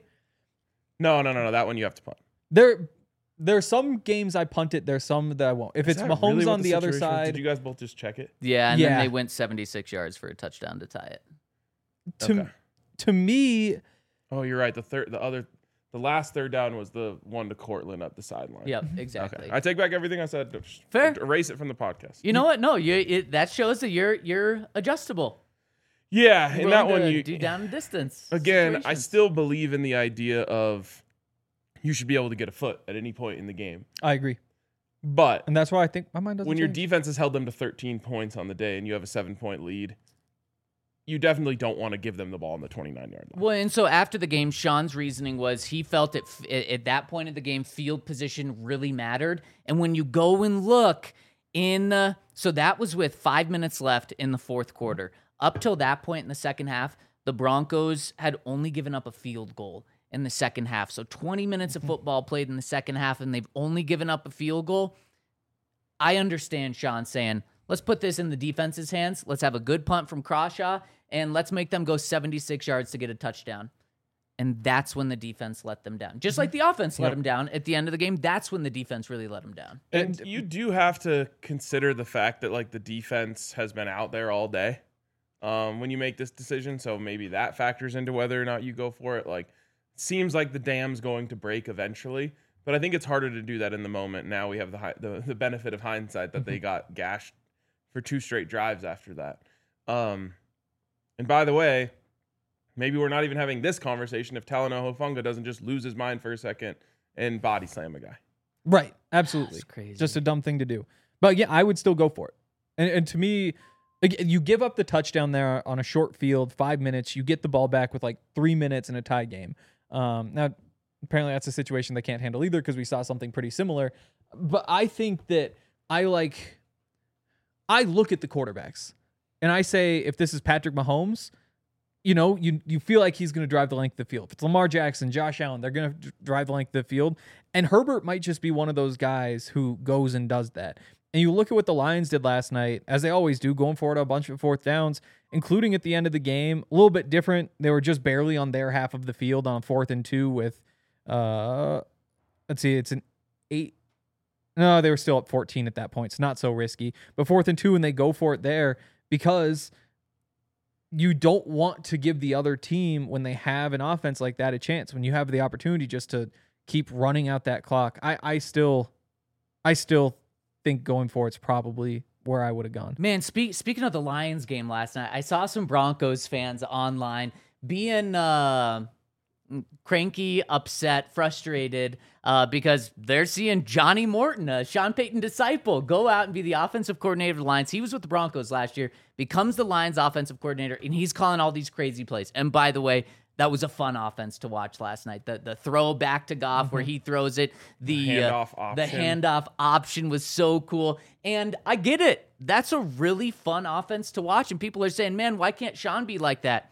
No, no, no, no. That one you have to punt. there there's some games I punt it, there's some that I won't. If Is it's that Mahomes really what on the, other situation was? side, Did you guys both just check it? Yeah, and Yeah. then they went seventy-six yards for a touchdown to tie it. to Okay. to me, Oh, you're right. The third, the other, the last third down was the one to Cortland at the sideline. Yep, exactly. Okay. I take back everything I said. Just Fair. Erase it from the podcast. You know what? No, you it, that shows that you're you're adjustable. Yeah, You're in that willing one, to you do down and distance. again. I situations. still believe in the idea of you should be able to get a foot at any point in the game. I agree. But And that's why I think my mind doesn't when your change. defense has held them to thirteen points on the day and you have a seven point lead, you definitely don't want to give them the ball on the twenty-nine yard line. Well, and so after the game, Sean's reasoning was he felt it at, at that point of the game, field position really mattered. And when you go and look in, uh, so that was with five minutes left in the fourth quarter. Up till that point in the second half, the Broncos had only given up a field goal in the second half. So twenty minutes of football played in the second half, and they've only given up a field goal. I understand Sean saying, let's put this in the defense's hands. Let's have a good punt from Crawshaw, and let's make them go seventy-six yards to get a touchdown. And that's when the defense let them down. Just like the offense let Yep. them down at the end of the game, that's when the defense really let them down. And you do have to consider the fact that like the defense has been out there all day um, when you make this decision. So maybe that factors into whether or not you go for it. Like, seems like the dam's going to break eventually, but I think it's harder to do that in the moment. Now we have the hi- the, the benefit of hindsight that they got gashed for two straight drives after that. Um, and by the way, maybe we're not even having this conversation if Talanoa Hufanga doesn't just lose his mind for a second and body slam a guy. Right. Absolutely. That's crazy. Just a dumb thing to do. But yeah, I would still go for it. And, and to me, like, you give up the touchdown there on a short field, five minutes, you get the ball back with like three minutes in a tie game. Um, now, apparently that's a situation they can't handle either because we saw something pretty similar. But I think that I like, I look at the quarterbacks and I say, if this is Patrick Mahomes, you know, you you feel like he's going to drive the length of the field. If it's Lamar Jackson, Josh Allen, they're going to drive the length of the field. And Herbert might just be one of those guys who goes and does that. And you look at what the Lions did last night, as they always do, going forward a bunch of fourth downs, including at the end of the game. A little bit different. They were just barely on their half of the field on fourth and two with, uh, let's see, it's an eight. No, they were still up fourteen at that point. It's not so risky. But fourth and two, and they go for it there because you don't want to give the other team, when they have an offense like that, a chance. When you have the opportunity just to keep running out that clock, I, I still, I still think going for it's probably where I would have gone. Man, speak, speaking of the Lions game last night, I saw some Broncos fans online being uh, cranky, upset, frustrated uh, because they're seeing Johnny Morton, a Sean Payton disciple, go out and be the offensive coordinator of the Lions. He was with the Broncos last year, becomes the Lions offensive coordinator, and he's calling all these crazy plays. And by the way, that was a fun offense to watch last night. The the throw back to Goff where he throws it. The, The uh, handoff the option. handoff option was so cool. And I get it. That's a really fun offense to watch. And people are saying, man, why can't Sean be like that?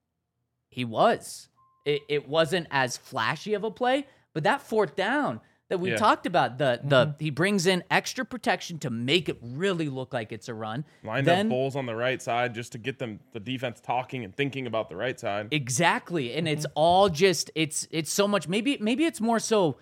He was. It, it wasn't as flashy of a play, but that fourth down that we Yeah. talked about, the the he brings in extra protection to make it really look like it's a run. Lined Then- up Bowles on the right side just to get them the defense talking and thinking about the right side. Exactly. And it's all just it's it's so much maybe maybe it's more so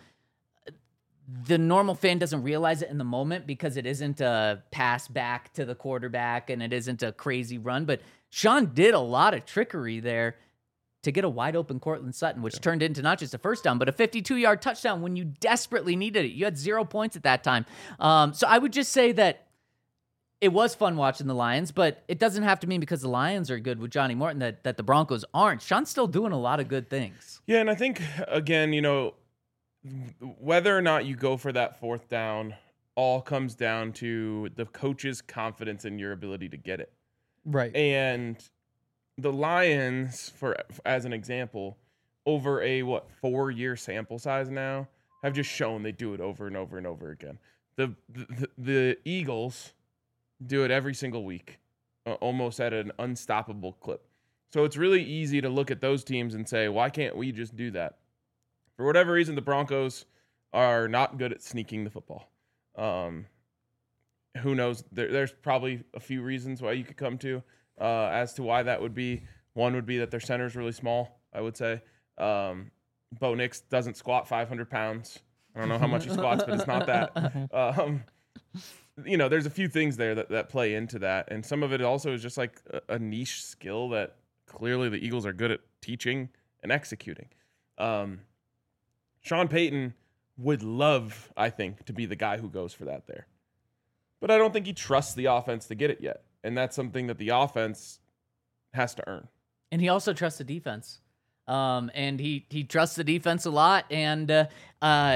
the normal fan doesn't realize it in the moment because it isn't a pass back to the quarterback and it isn't a crazy run, but Sean did a lot of trickery there to get a wide open Cortland Sutton, which turned into not just a first down, but a fifty-two yard touchdown when you desperately needed it. You had zero points at that time. Um, so I would just say that it was fun watching the Lions, but it doesn't have to mean because the Lions are good with Johnny Morton that, that the Broncos aren't. Sean's still doing a lot of good things. Yeah, and I think, again, you know, whether or not you go for that fourth down all comes down to the coach's confidence in your ability to get it. Right. And the Lions, for as an example, over a what four year sample size now have just shown they do it over and over and over again. The the, the Eagles do it every single week, uh, almost at an unstoppable clip. So it's really easy to look at those teams and say, why can't we just do that? For whatever reason, the Broncos are not good at sneaking the football. Um, who knows? There, there's probably a few reasons why you could come to uh, as to why that would be. One would be that their center is really small, I would say. Um, Bo Nix doesn't squat five hundred pounds. I don't know how much he squats, but it's not that. Um, you know, there's a few things there that, that play into that. And some of it also is just like a, a niche skill that clearly the Eagles are good at teaching and executing. Um, Sean Payton would love, I think, to be the guy who goes for that there. But I don't think he trusts the offense to get it yet. And that's something that the offense has to earn. And he also trusts the defense. Um, and he, he trusts the defense a lot. And uh, uh,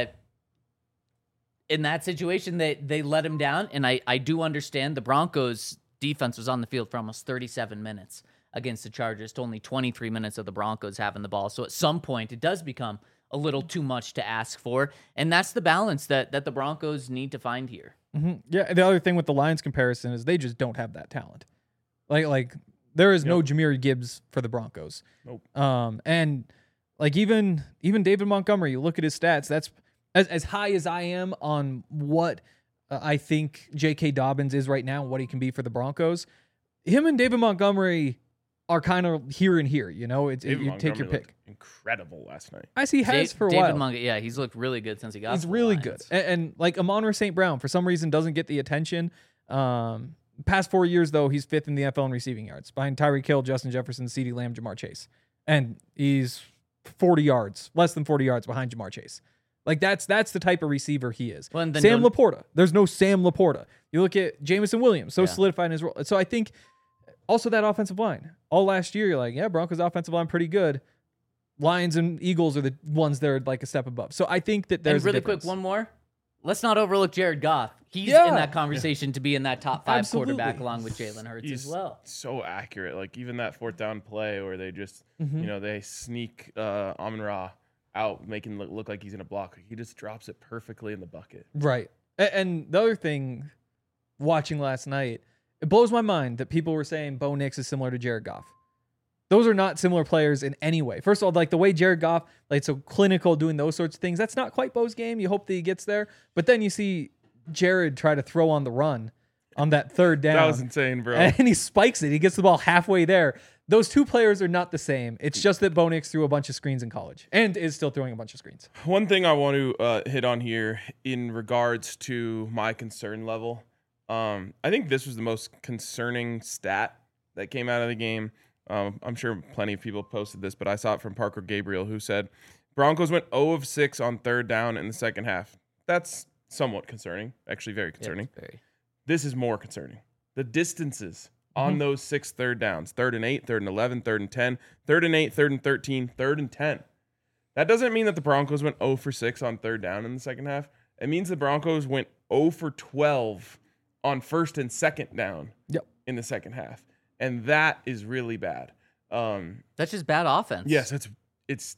in that situation, they, they let him down. And I, I do understand the Broncos defense was on the field for almost thirty-seven minutes against the Chargers to only twenty-three minutes of the Broncos having the ball. So at some point, it does become a little too much to ask for. And that's the balance that, that the Broncos need to find here. Mm-hmm. Yeah, the other thing with the Lions comparison is they just don't have that talent. Like, like there is yep. no Jahmyr Gibbs for the Broncos. Nope. Um, and like even even David Montgomery, you look at his stats. That's as as high as I am on what uh, I think J K. Dobbins is right now, what he can be for the Broncos. Him and David Montgomery are kind of here and here. You know, it's it, you take your pick. Incredible last night. As he has Dave, for a David while. Montgomery, yeah, he's looked really good since he got. He's to the really Lions. good, and, and like Amon-Ra Saint Brown for some reason doesn't get the attention. Um, past four years though, he's fifth in the N F L in receiving yards, behind Tyreek Hill, Justin Jefferson, CeeDee Lamb, Jamar Chase, and he's forty yards, less than forty yards behind Jamar Chase. Like that's that's the type of receiver he is. Well, Sam Laporta, there's no Sam Laporta. You look at Jameson Williams, so Yeah. solidified in his role. So I think also that offensive line. All last year, you're like, yeah, Broncos offensive line pretty good. Lions and Eagles are the ones that are like a step above. So I think that there's and really a difference. quick, one more. Let's not overlook Jared Goff. He's Yeah. in that conversation to be in that top five Absolutely. quarterback along with Jalen Hurts He's as well. so accurate. Like even that fourth down play where they just, Mhm. you know, they sneak uh, Amon-Ra out, making look, look like he's in a block. He just drops it perfectly in the bucket. Right. A- And the other thing, watching last night, it blows my mind that people were saying Bo Nix is similar to Jared Goff. Those are not similar players in any way. First of all, like the way Jared Goff, like so clinical, doing those sorts of things, that's not quite Bo's game. You hope that he gets there. But then you see Jared try to throw on the run on that third down. That was insane, bro. And he spikes it. He gets the ball halfway there. Those two players are not the same. It's just that Bo Nix threw a bunch of screens in college and is still throwing a bunch of screens. One thing I want to uh, hit on here in regards to my concern level, um, I think this was the most concerning stat that came out of the game. Um, I'm sure plenty of people posted this, but I saw it from Parker Gabriel, who said Broncos went zero of six on third down in the second half. That's somewhat concerning, actually very concerning. Yeah, very. This is more concerning. The distances on Mhm. those six third downs, third and eight, third and eleven, third and ten, third and eight, third and thirteen, third and ten. That doesn't mean that the Broncos went zero for six on third down in the second half. It means the Broncos went zero for twelve on first and second down Yep. in the second half. And that is really bad. Um, That's just bad offense. yes, it's it's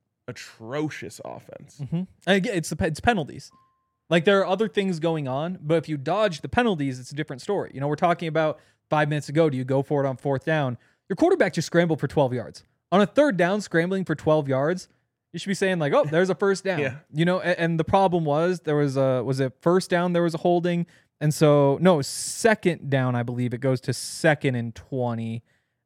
atrocious offense. Mm-hmm. And again, it's the pe- it's penalties. Like there are other things going on, but if you dodge the penalties, it's a different story. You know, we're talking about five minutes ago. Do you go for it on fourth down? Your quarterback just scrambled for twelve yards on a third down, scrambling for twelve yards. You should be saying like, "Oh, there's a first down." Yeah. You know, and, and the problem was there was a was it first down? There was a holding, and so no second down. I believe it goes to second and twenty.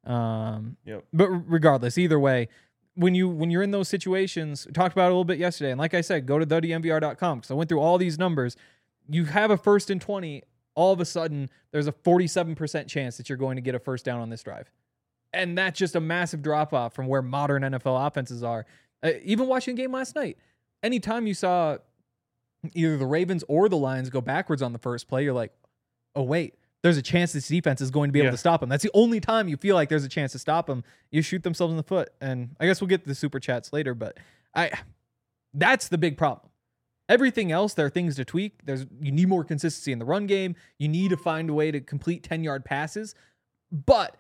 Um, Yep. but regardless, either way, when you when you're in those situations, we talked about it a little bit yesterday, and like I said, go to the D M V R dot com because I went through all these numbers. You have a first and twenty. All of a sudden, there's a forty-seven percent chance that you're going to get a first down on this drive, and that's just a massive drop off from where modern N F L offenses are. Uh, even watching the game last night, anytime you saw either the Ravens or the Lions go backwards on the first play, you're like, oh wait. There's a chance this defense is going to be able Yeah. to stop them. That's the only time you feel like there's a chance to stop them. You shoot themselves in the foot. And I guess we'll get to the super chats later, but I that's the big problem. Everything else, there are things to tweak. There's you need more consistency in the run game. You need to find a way to complete ten-yard passes. But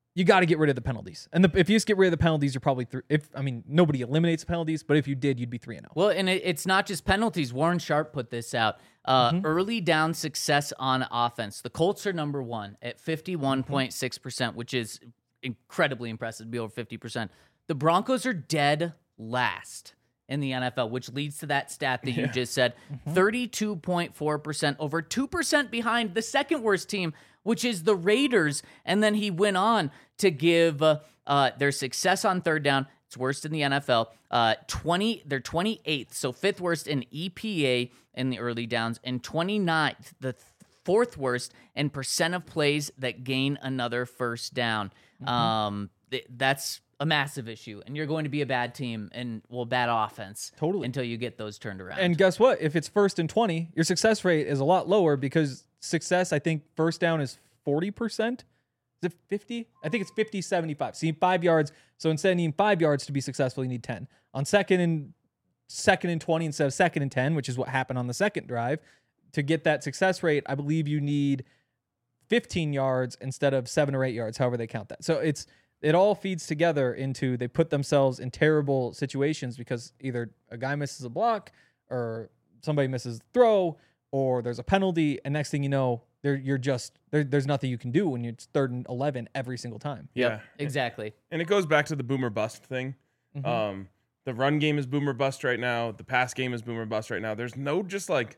you got to get rid of the penalties. And the, if you just get rid of the penalties, you're probably th- if I mean nobody eliminates penalties, but if you did, you'd be three and zero. Well, and it, it's not just penalties. Warren Sharp put this out. Uh, Mm-hmm. Early down success on offense. The Colts are number one at fifty-one point six percent, which is incredibly impressive to be over fifty percent. The Broncos are dead last in the N F L, which leads to that stat that you just said, thirty-two point four percent, over two percent behind the second worst team, which is the Raiders. And then he went on to give uh, uh, their success on third down. It's worst in the N F L. Uh, twenty, they're twenty-eighth, so fifth worst in E P A in the early downs, and twenty-ninth, the th- fourth worst in percent of plays that gain another first down. Mm-hmm. Um, th- that's a massive issue, and you're going to be a bad team and well, bad offense Totally. until you get those turned around. And guess what? If it's first and twenty, your success rate is a lot lower because success, I think, first down is forty percent. Is it fifty? I think it's fifty, seventy-five. So you need five yards. So instead of needing five yards to be successful, you need ten. On second and second and twenty instead of second and ten, which is what happened on the second drive, to get that success rate, I believe you need fifteen yards instead of seven or eight yards, however they count that. So it's it all feeds together into they put themselves in terrible situations because either a guy misses a block or somebody misses the throw or there's a penalty, and next thing you know, there you're just there, there's nothing you can do when you're third and eleven every single time. Yeah, exactly. and it goes back to the boomer bust thing. Mhm. Um, the run game is boomer bust right now. The pass game is boomer bust right now. There's no just like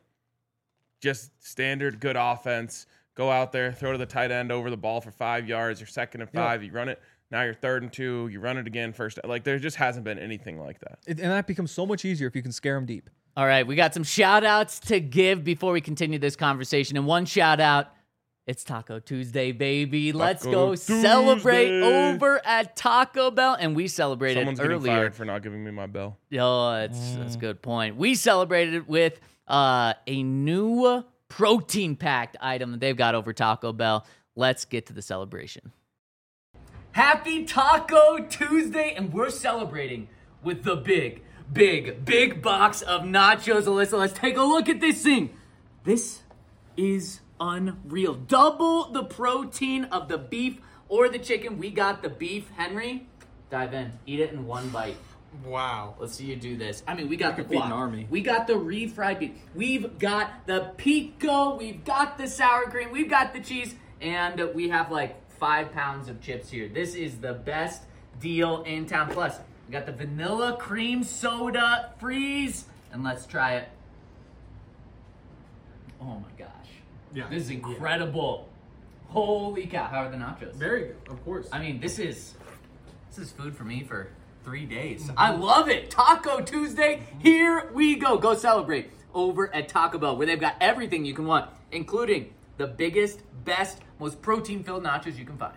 just standard good offense. Go out there, throw to the tight end over the ball for five yards. You're second and five. You run it. Now you're third and two. You run it again first. Like there just hasn't been anything like that. It, and that becomes so much easier if you can scare them deep. All right, we got some shout outs to give before we continue this conversation. And one shout out, it's Taco Tuesday, baby. Let's Taco go Tuesday. celebrate over at Taco Bell. And we celebrated Someone's getting earlier. fired for not giving me my bell. Oh, that's, that's a good point. We celebrated it with uh, a new protein packed item that they've got over Taco Bell. Let's get to the celebration. Happy Taco Tuesday, and we're celebrating with the big, big, big box of nachos. Alyssa, let's take a look at this thing. This is unreal. Double the protein of the beef or the chicken. We got the beef. Henry, dive in. Eat it in one bite. Wow. Let's see you do this. I mean, we got the feed an guac. army. We got the refried beef. We've got the pico. We've got the sour cream. We've got the cheese. And we have like five pounds of chips here. This is the best deal in town. Plus, we got the vanilla cream soda freeze. And let's try it. Oh my gosh. Yeah. This is incredible. Holy cow. How are the nachos? Very good, of course. I mean, this is this is food for me for three days. Mm-hmm. I love it. Taco Tuesday. Here we go. Go celebrate over at Taco Bell, where they've got everything you can want, including the biggest, best, most protein-filled nachos you can find.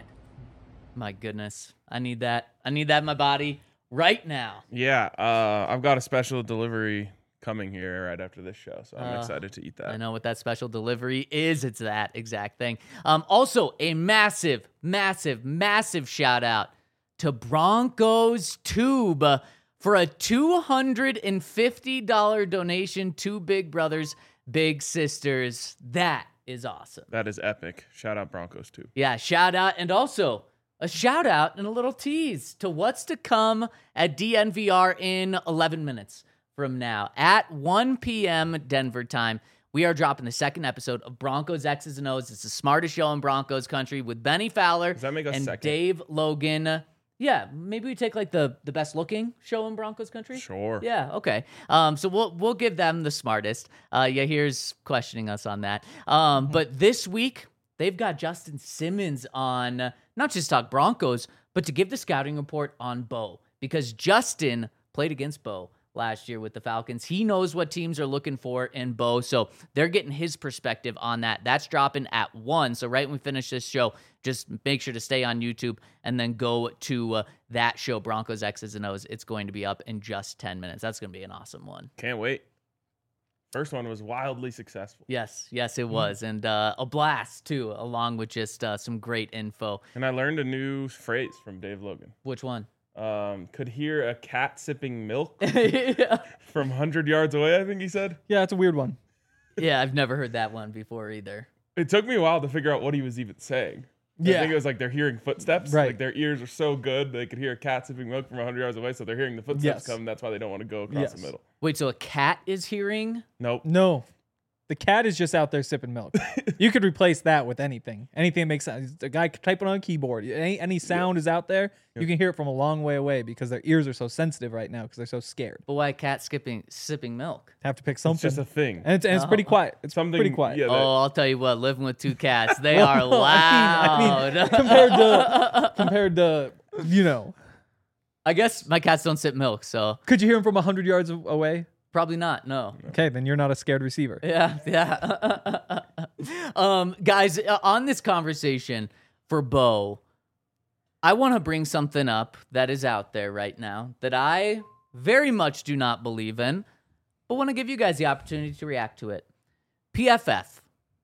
My goodness. I need that. I need that in my body right now. Yeah, uh, I've got a special delivery coming here right after this show, so I'm Uh, excited to eat that. I know what that special delivery is. It's that exact thing. Um, also, a massive, massive, massive shout out to Broncos Tube uh, for a two hundred fifty dollars donation to Big Brothers, Big Sisters. That is awesome. That is epic. Shout out Broncos too. Yeah, shout out. And also a shout out and a little tease to what's to come at D N V R in eleven minutes from now. At one p.m. Denver time, we are dropping the second episode of Broncos X's and O's. It's the smartest show in Broncos country with Benny Fowler Does that make us and second? Dave Logan. Yeah, maybe we take like the, the best looking show in Broncos country. Sure. Yeah, okay. Um, so we'll we'll give them the smartest. Uh, yeah, here's questioning us on that. Um, but this week they've got Justin Simmons on, uh, not just talk Broncos, but to give the scouting report on Bo, because Justin played against Bo last year with the Falcons. He knows what teams are looking for in Bo, so they're getting his perspective on that. That's dropping at one. So right when we finish this show, just make sure to stay on YouTube and then go to uh, that show, Broncos X's and O's. It's going to be up in just ten minutes. That's going to be an awesome one. Can't wait. First one was wildly successful. Yes, yes, it was. And uh, a blast, too, along with just uh, some great info. And I learned a new phrase from Dave Logan. Which one? Um, could hear a cat sipping milk yeah. from one hundred yards away, I think he said. Yeah, it's a weird one. yeah, I've never heard that one before either. It took me a while to figure out what he was even saying. Yeah. I think it was like they're hearing footsteps. Right. Like their ears are so good they could hear a cat sipping milk from one hundred yards away, so they're hearing the footsteps Yes. come. That's why they don't want to go across Yes. the middle. Wait, so a cat is hearing? Nope. No. The cat is just out there sipping milk. You could replace that with anything. Anything that makes sense. A guy typing on a keyboard. Any, any sound is out there. You can hear it from a long way away because their ears are so sensitive right now because they're so scared. But why a cat skipping sipping milk? Have to pick It's something. just a thing. and it's, and it's pretty quiet. It's Something pretty quiet. Yeah, that- Oh, I'll tell you what, living with two cats, they are Well, I mean- I loud. mean, compared to compared to you know, I guess my cats don't sip milk, so could you hear him from a hundred yards a- away? probably not. No. Okay, then you're not a scared receiver. Yeah, yeah. um, guys, uh, on this conversation for Bo, I want to bring something up that is out there right now that I very much do not believe in, but want to give you guys the opportunity to react to it. P F F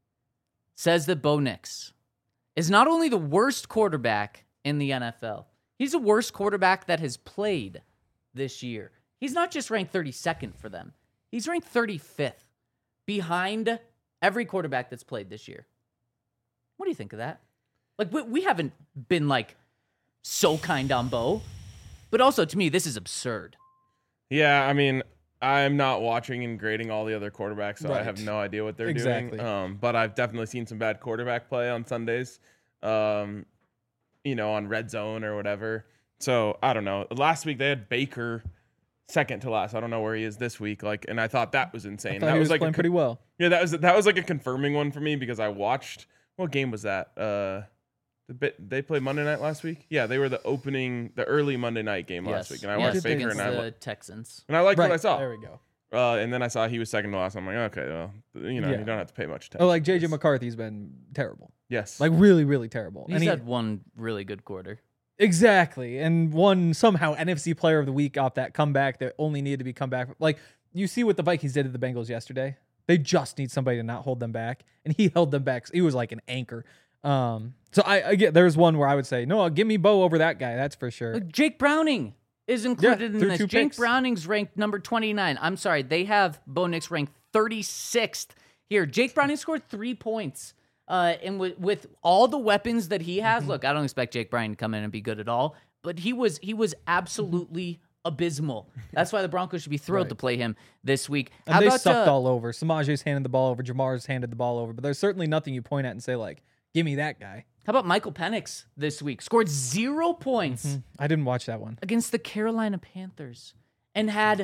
says that Bo Nix is not only the worst quarterback in the N F L, he's the worst quarterback that has played this year. He's not just ranked thirty-second for them. He's ranked thirty-fifth behind every quarterback that's played this year. What do you think of that? Like, we, we haven't been, like, so kind on Bo. But also, to me, this is absurd. Yeah, I mean, I'm not watching and grading all the other quarterbacks, so I Right. have no idea what they're Exactly. doing. Um, but I've definitely seen some bad quarterback play on Sundays, um, you know, on Red Zone or whatever. So I don't know. Last week they had Baker second to last. I don't know where he is this week. Like, and I thought that was insane. I thought that he was, was like playing a, pretty well. yeah, that was that was like a confirming one for me because I watched. What game was that? Uh, the bit they played Monday night last week. Yeah, they were the opening, the early Monday night game last Yes. week, and I yes, watched Baker against and I the li- Texans. and I liked Right, what I saw. There we go. Uh, and then I saw he was second to last. I'm like, okay, well, you know, Yeah. you don't have to pay much attention. Oh, like J J to this. McCarthy's been terrible. Yes. Like really, really terrible. He's And he- had one really good quarter. Exactly. And won somehow N F C Player of the Week off that comeback that only needed to be come back. Like, you see what the Vikings did to the Bengals yesterday. They just need somebody to not hold them back. And he held them back. He was like an anchor. Um, so I, I get there's one where I would say, no, give me Bo over that guy. That's for sure. Look, Jake Browning is included in threw this. two Jake picks. Browning's ranked number twenty-nine. I'm sorry, they have Bo Nix ranked thirty-sixth here. Jake Browning scored three points. Uh, and with, with all the weapons that he has, Mm-hmm. look, I don't expect Jake Browning to come in and be good at all, but he was he was absolutely abysmal. That's why the Broncos should be thrilled Right. to play him this week. And How they about sucked uh, all over. Samaje's handed the ball over. Jamar's handed the ball over. But there's certainly nothing you point at and say, like, give me that guy. how about Michael Penix this week? Scored zero points I didn't watch that one. against the Carolina Panthers and had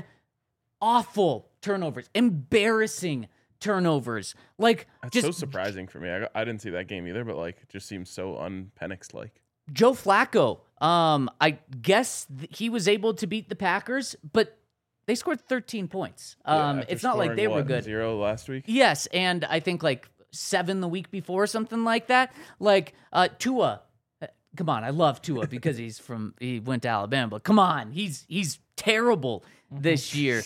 awful turnovers, embarrassing turnovers. Like, That's just so surprising for me. I, I didn't see that game either, but like, it just seems so un-Penix like. Joe Flacco. Um, I guess th- he was able to beat the Packers, but they scored thirteen points. Um, it's not like they were good. Zero last week. Yes, and I think like seven the week before, something like that. Like uh, Tua. uh, Come on, I love Tua because he's from he went to Alabama. But come on, he's he's terrible this year.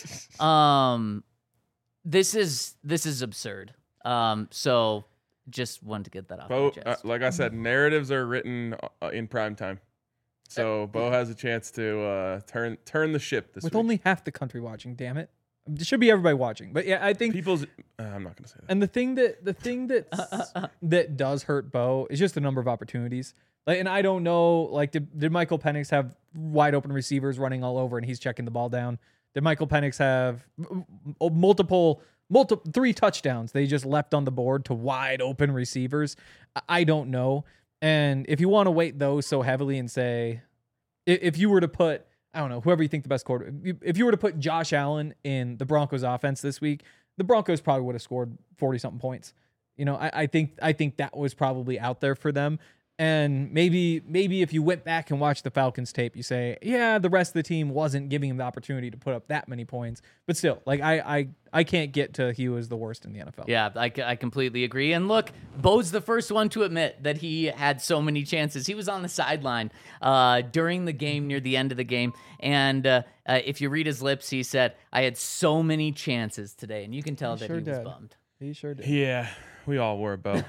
Um, this is this is absurd. Um, so just wanted to get that off my Bo, uh, chest. like I said, narratives are written uh, in prime time, so Bo has a chance to uh, turn turn the ship this With week. only half the country watching, damn it. It should be everybody watching. But yeah, I think People's. Uh, I'm not gonna say that. And the thing that the thing that that does hurt Bo is just the number of opportunities. Like, and I don't know, like, did, did Michael Penix have wide open receivers running all over and he's checking the ball down? Did Michael Penix have m- m- multiple, multiple, three touchdowns they just left on the board to wide open receivers? I- I don't know. And if you want to weight those so heavily and say, i- if you were to put, I don't know, whoever you think the best quarter, if you were to put Josh Allen in the Broncos offense this week, the Broncos probably would have scored forty something points. You know, I, I think I think that was probably out there for them. And maybe maybe if you went back and watched the Falcons tape, you say, yeah, the rest of the team wasn't giving him the opportunity to put up that many points. But still, like I I, I can't get to he was the worst in the N F L. Yeah, I, c- I completely agree. And look, Bo's the first one to admit that he had so many chances. He was on the sideline uh, during the game, near the end of the game. And uh, uh, if you read his lips, he said, I had so many chances today. And you can tell He that sure he was did. bummed. He sure did. Yeah, we all were, Bo.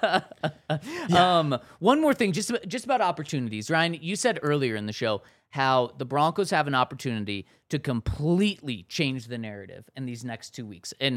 Um, one more thing, just about, just about opportunities. Ryan, you said earlier in the show how the Broncos have an opportunity to completely change the narrative in these next two weeks. And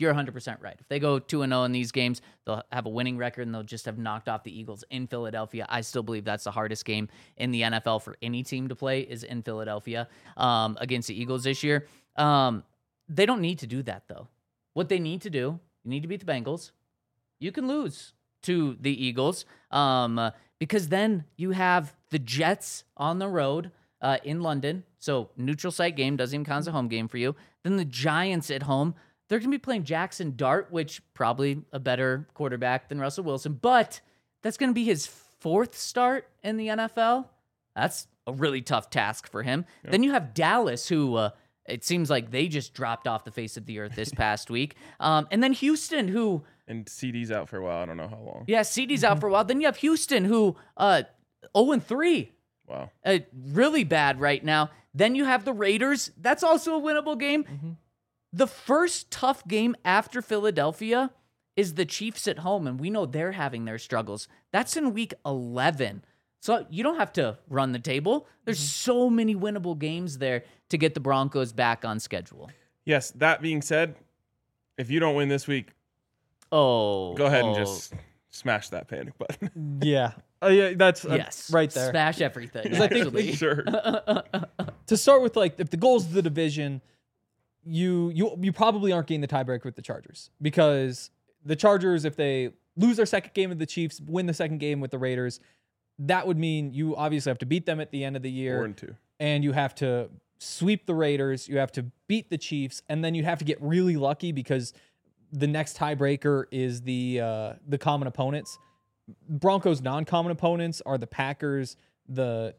you're one hundred percent right. If they go two and oh in these games, they'll have a winning record and they'll just have knocked off the Eagles in Philadelphia. I still believe that's the hardest game in the N F L for any team to play is in Philadelphia um, against the Eagles this year. Um, they don't need to do that, though. What they need to do, you need to beat the Bengals. You can lose to the Eagles um, uh, because then you have the Jets on the road uh, in London. So neutral site game, doesn't even count as a home game for you. Then the Giants at home. They're going to be playing Jackson Dart, which probably a better quarterback than Russell Wilson, but that's going to be his fourth start in the N F L. That's a really tough task for him. Yep. Then you have Dallas, who uh, it seems like they just dropped off the face of the earth this past week. Um, and then Houston, who... And C D's out for a while. I don't know how long. Yeah, C D's out for a while. Then you have Houston, who uh, oh and three. Wow. Uh, really bad right now. Then you have the Raiders. That's also a winnable game. Mm-hmm. The first tough game after Philadelphia is the Chiefs at home, and we know they're having their struggles. That's in week eleven. So you don't have to run the table. There's mm-hmm. so many winnable games there to get the Broncos back on schedule. Yes, that being said, if you don't win this week, oh, go ahead oh. and just smash that panic button. Yeah. Uh, yeah, that's uh, yes. right there. Smash everything, I think- actually. Sure. To start with, like, if the goals of the division, you you you probably aren't getting the tiebreaker with the Chargers, because the Chargers, if they lose their second game with the Chiefs, win the second game with the Raiders, that would mean you obviously have to beat them at the end of the year. Four and two. And you have to sweep the Raiders, you have to beat the Chiefs, and then you have to get really lucky because the next tiebreaker is the uh, the common opponents. Broncos' non-common opponents are the Packers, the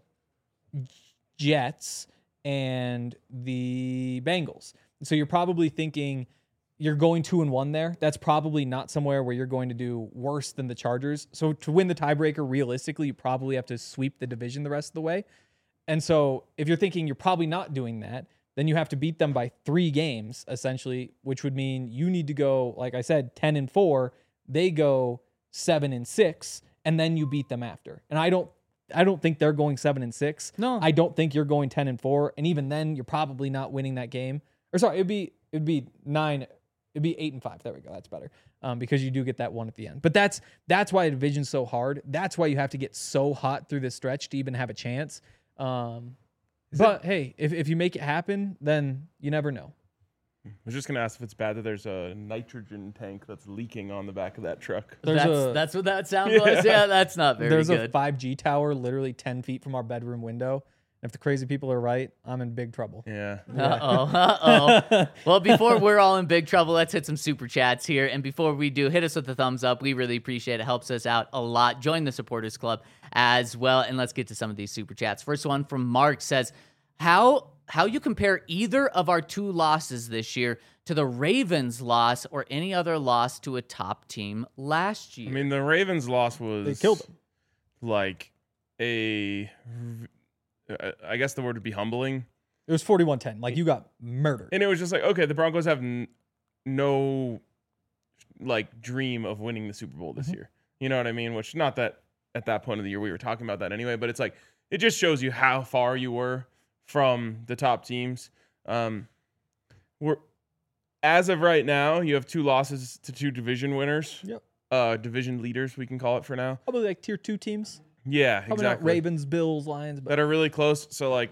Jets, and the Bengals. So you're probably thinking you're going two and one there. That's probably not somewhere where you're going to do worse than the Chargers. So to win the tiebreaker, realistically, you probably have to sweep the division the rest of the way. And so if you're thinking you're probably not doing that, then you have to beat them by three games, essentially, which would mean you need to go, like I said, ten and four. They go seven and six, and then you beat them after. And I don't I don't think they're going seven and six. No. I don't think you're going ten and four. And even then, you're probably not winning that game. Or sorry, it'd be it'd be nine, it'd be eight and five. There we go. That's better. Um, because you do get that one at the end. But that's that's why the division's so hard. That's why you have to get so hot through this stretch to even have a chance. Um, but hey, if, if you make it happen, then you never know. I was just going to ask if it's bad that there's a nitrogen tank that's leaking on the back of that truck. There's That's, a- that's what that sound was? Yeah, that's not very There's good. a five G tower literally ten feet from our bedroom window. If the crazy people are right, I'm in big trouble. Yeah. Uh-oh, uh-oh. Well, before we're all in big trouble, let's hit some super chats here. And before we do, hit us with a thumbs up. We really appreciate it. Helps us out a lot. Join the Supporters Club as well. And let's get to some of these super chats. First one from Mark says, how how you compare either of our two losses this year to the Ravens loss or any other loss to a top team last year? I mean, the Ravens' loss was... They killed them. Like a... I guess the word would be humbling. It was forty-one ten. Like, you got murdered. And it was just like, okay, the Broncos have n- no, like, dream of winning the Super Bowl this Mm-hmm. year. You know what I mean? Which, not that at that point of the year we were talking about that anyway, but it's like, it just shows you how far you were from the top teams. Um, we're as of right now, you have two losses to two division winners. Yep. Uh, division leaders, we can call it for now. Probably like tier two teams. Yeah, Probably exactly. not Ravens, Bills, Lions, but That are really close. So, like,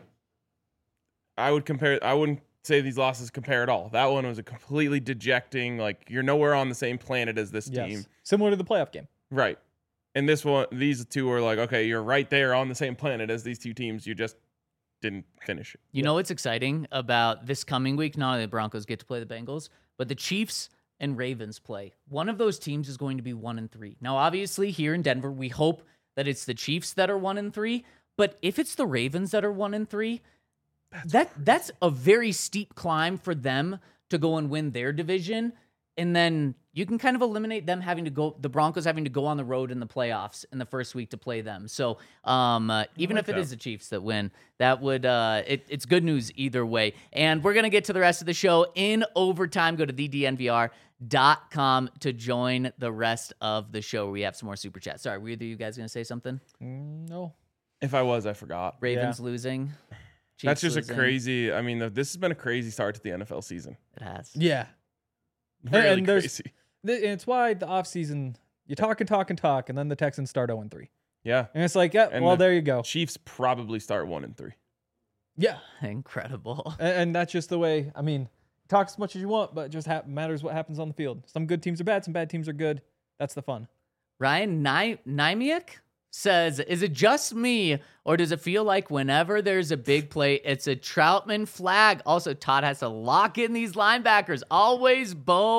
I would compare, I wouldn't say these losses compare at all. That one was a completely dejecting, like, you're nowhere on the same planet as this yes. team. Similar to the playoff game. Right. And this one, these two are like, okay, you're right there on the same planet as these two teams. You just didn't finish it. You know what's exciting about this coming week? Not only the Broncos get to play the Bengals, but the Chiefs and Ravens play. One of those teams is going to be one and three. Now, obviously, here in Denver, we hope that it's the Chiefs that are one and three. But if it's the Ravens that are one and three, that's that crazy. That's a very steep climb for them to go and win their division. And then you can kind of eliminate them having to go, the Broncos having to go on the road in the playoffs in the first week to play them. So um, uh, even like if it that. is the Chiefs that win, that would, uh, it, it's good news either way. And we're going to get to the rest of the show in overtime. Go to the D N V R dot com to join the rest of the show. We have some more super chats. Sorry, were either you guys going to say something? Mm, no. If I was, I forgot. Ravens Yeah. losing. That's Chiefs just losing. a crazy, I mean, the, this has been a crazy start to the N F L season. It has. Yeah. Really and there's crazy. th- and it's why the offseason you talk and talk and talk, and then the Texans start oh and three. Yeah. And it's like, yeah, And well, the there you go. Chiefs probably start one and three. Yeah. Incredible. And, and that's just the way, I mean, talk as much as you want, but it just hap- matters what happens on the field. Some good teams are bad, some bad teams are good. That's the fun. Ryan Ny- Nymiak says, is it just me, or does it feel like whenever there's a big play, it's a Troutman flag? Also, Todd has to lock in these linebackers. Always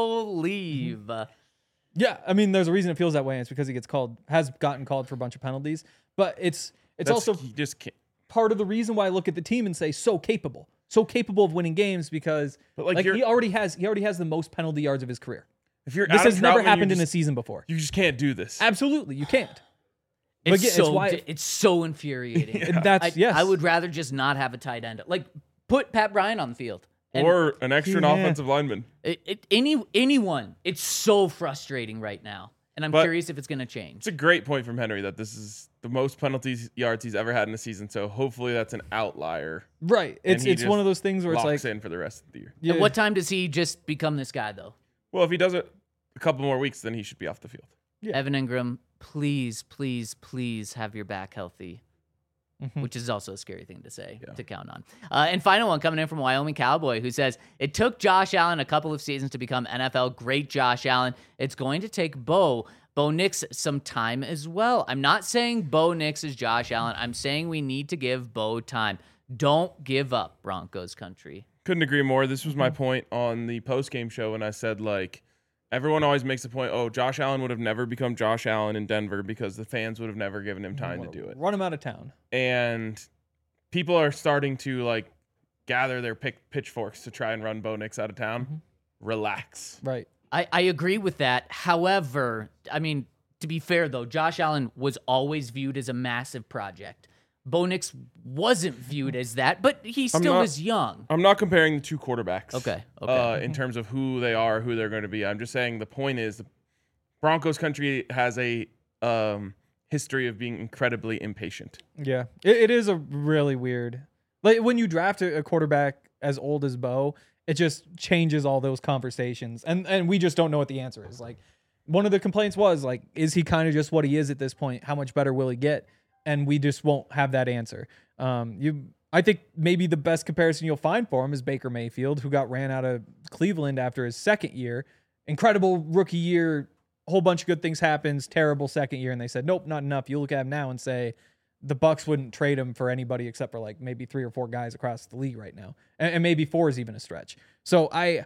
believe. Yeah, I mean, there's a reason it feels that way, and it's because he gets called, has gotten called for a bunch of penalties. But it's it's That's- also you just can't. part of the reason why I look at the team and say so capable, so capable of winning games because But, like, like, you're- he already has he already has the most penalty yards of his career. If you're This Adam has never Troutman, happened you in a just, season before. You just can't do this. Absolutely, you can't. It's, again, it's so, why- di- it's so infuriating. And that's I, yes. I would rather just not have a tight end. Like, put Pat Bryant on the field. And Or an extra Yeah. offensive lineman. it, it, any anyone. It's so frustrating right now. And I'm But- curious if it's going to change. It's a great point from Henry that this is the most penalties yards he's ever had in a season. So hopefully that's an outlier. Right. It's he it's one just of those things where it's Locks like in for the rest of the year. yeah, At what time does he just become this guy, though? Well, if he does it a couple more weeks, then he should be off the field. Yeah. Evan Ingram, please, please, please have your back healthy. Mhm. Which is also a scary thing to say, Yeah. to count on. Uh, and final one coming in from Wyoming Cowboy, who says, it took Josh Allen a couple of seasons to become N F L great Josh Allen. It's going to take Bo, Bo Nix some time as well. I'm not saying Bo Nix is Josh Allen. I'm saying we need to give Bo time. Don't give up, Broncos country. Couldn't agree more. This was my point on the post-game show when I said, like, everyone always makes the point, oh, Josh Allen would have never become Josh Allen in Denver because the fans would have never given him time to do it. Run him out of town. And people are starting to, like, gather their pick pitchforks to try and run Bo Nix out of town. Mm-hmm. Relax. Right. I, I agree with that. However, I mean, to be fair, though, Josh Allen was always viewed as a massive project. Bo Nix wasn't viewed as that, but he still not- was young. I'm not comparing the two quarterbacks. Okay, okay. Uh, in terms of who they are, who they're going to be. I'm just saying the point is the Broncos country has a um, history of being incredibly impatient. Yeah. It, it is a really weird. Like when you draft a, a quarterback as old as Bo, it just changes all those conversations. And and we just don't know what the answer is. Like one of the complaints was like, is he kind of just what he is at this point? How much better will he get? And we just won't have that answer. Um, you, I think maybe the best comparison you'll find for him is Baker Mayfield, who got ran out of Cleveland after his second year. Incredible rookie year, a whole bunch of good things happens. Terrible second year, and they said, nope, not enough. You look at him now and say the Bucks wouldn't trade him for anybody except for like maybe three or four guys across the league right now, and, and maybe four is even a stretch. So I,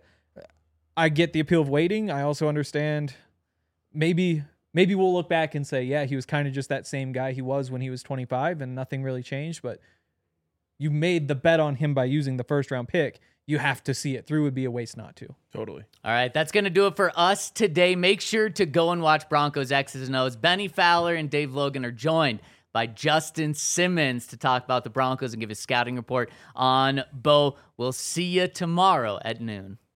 I get the appeal of waiting. I also understand maybe. Maybe we'll look back and say, yeah, he was kind of just that same guy he was when he was twenty-five and nothing really changed. But you made the bet on him by using the first round pick. You have to see it through. It would be a waste not to. Totally. All right, that's going to do it for us today. Make sure to go and watch Broncos X's and O's. Benny Fowler and Dave Logan are joined by Justin Simmons to talk about the Broncos and give a scouting report on Bo. We'll see you tomorrow at noon.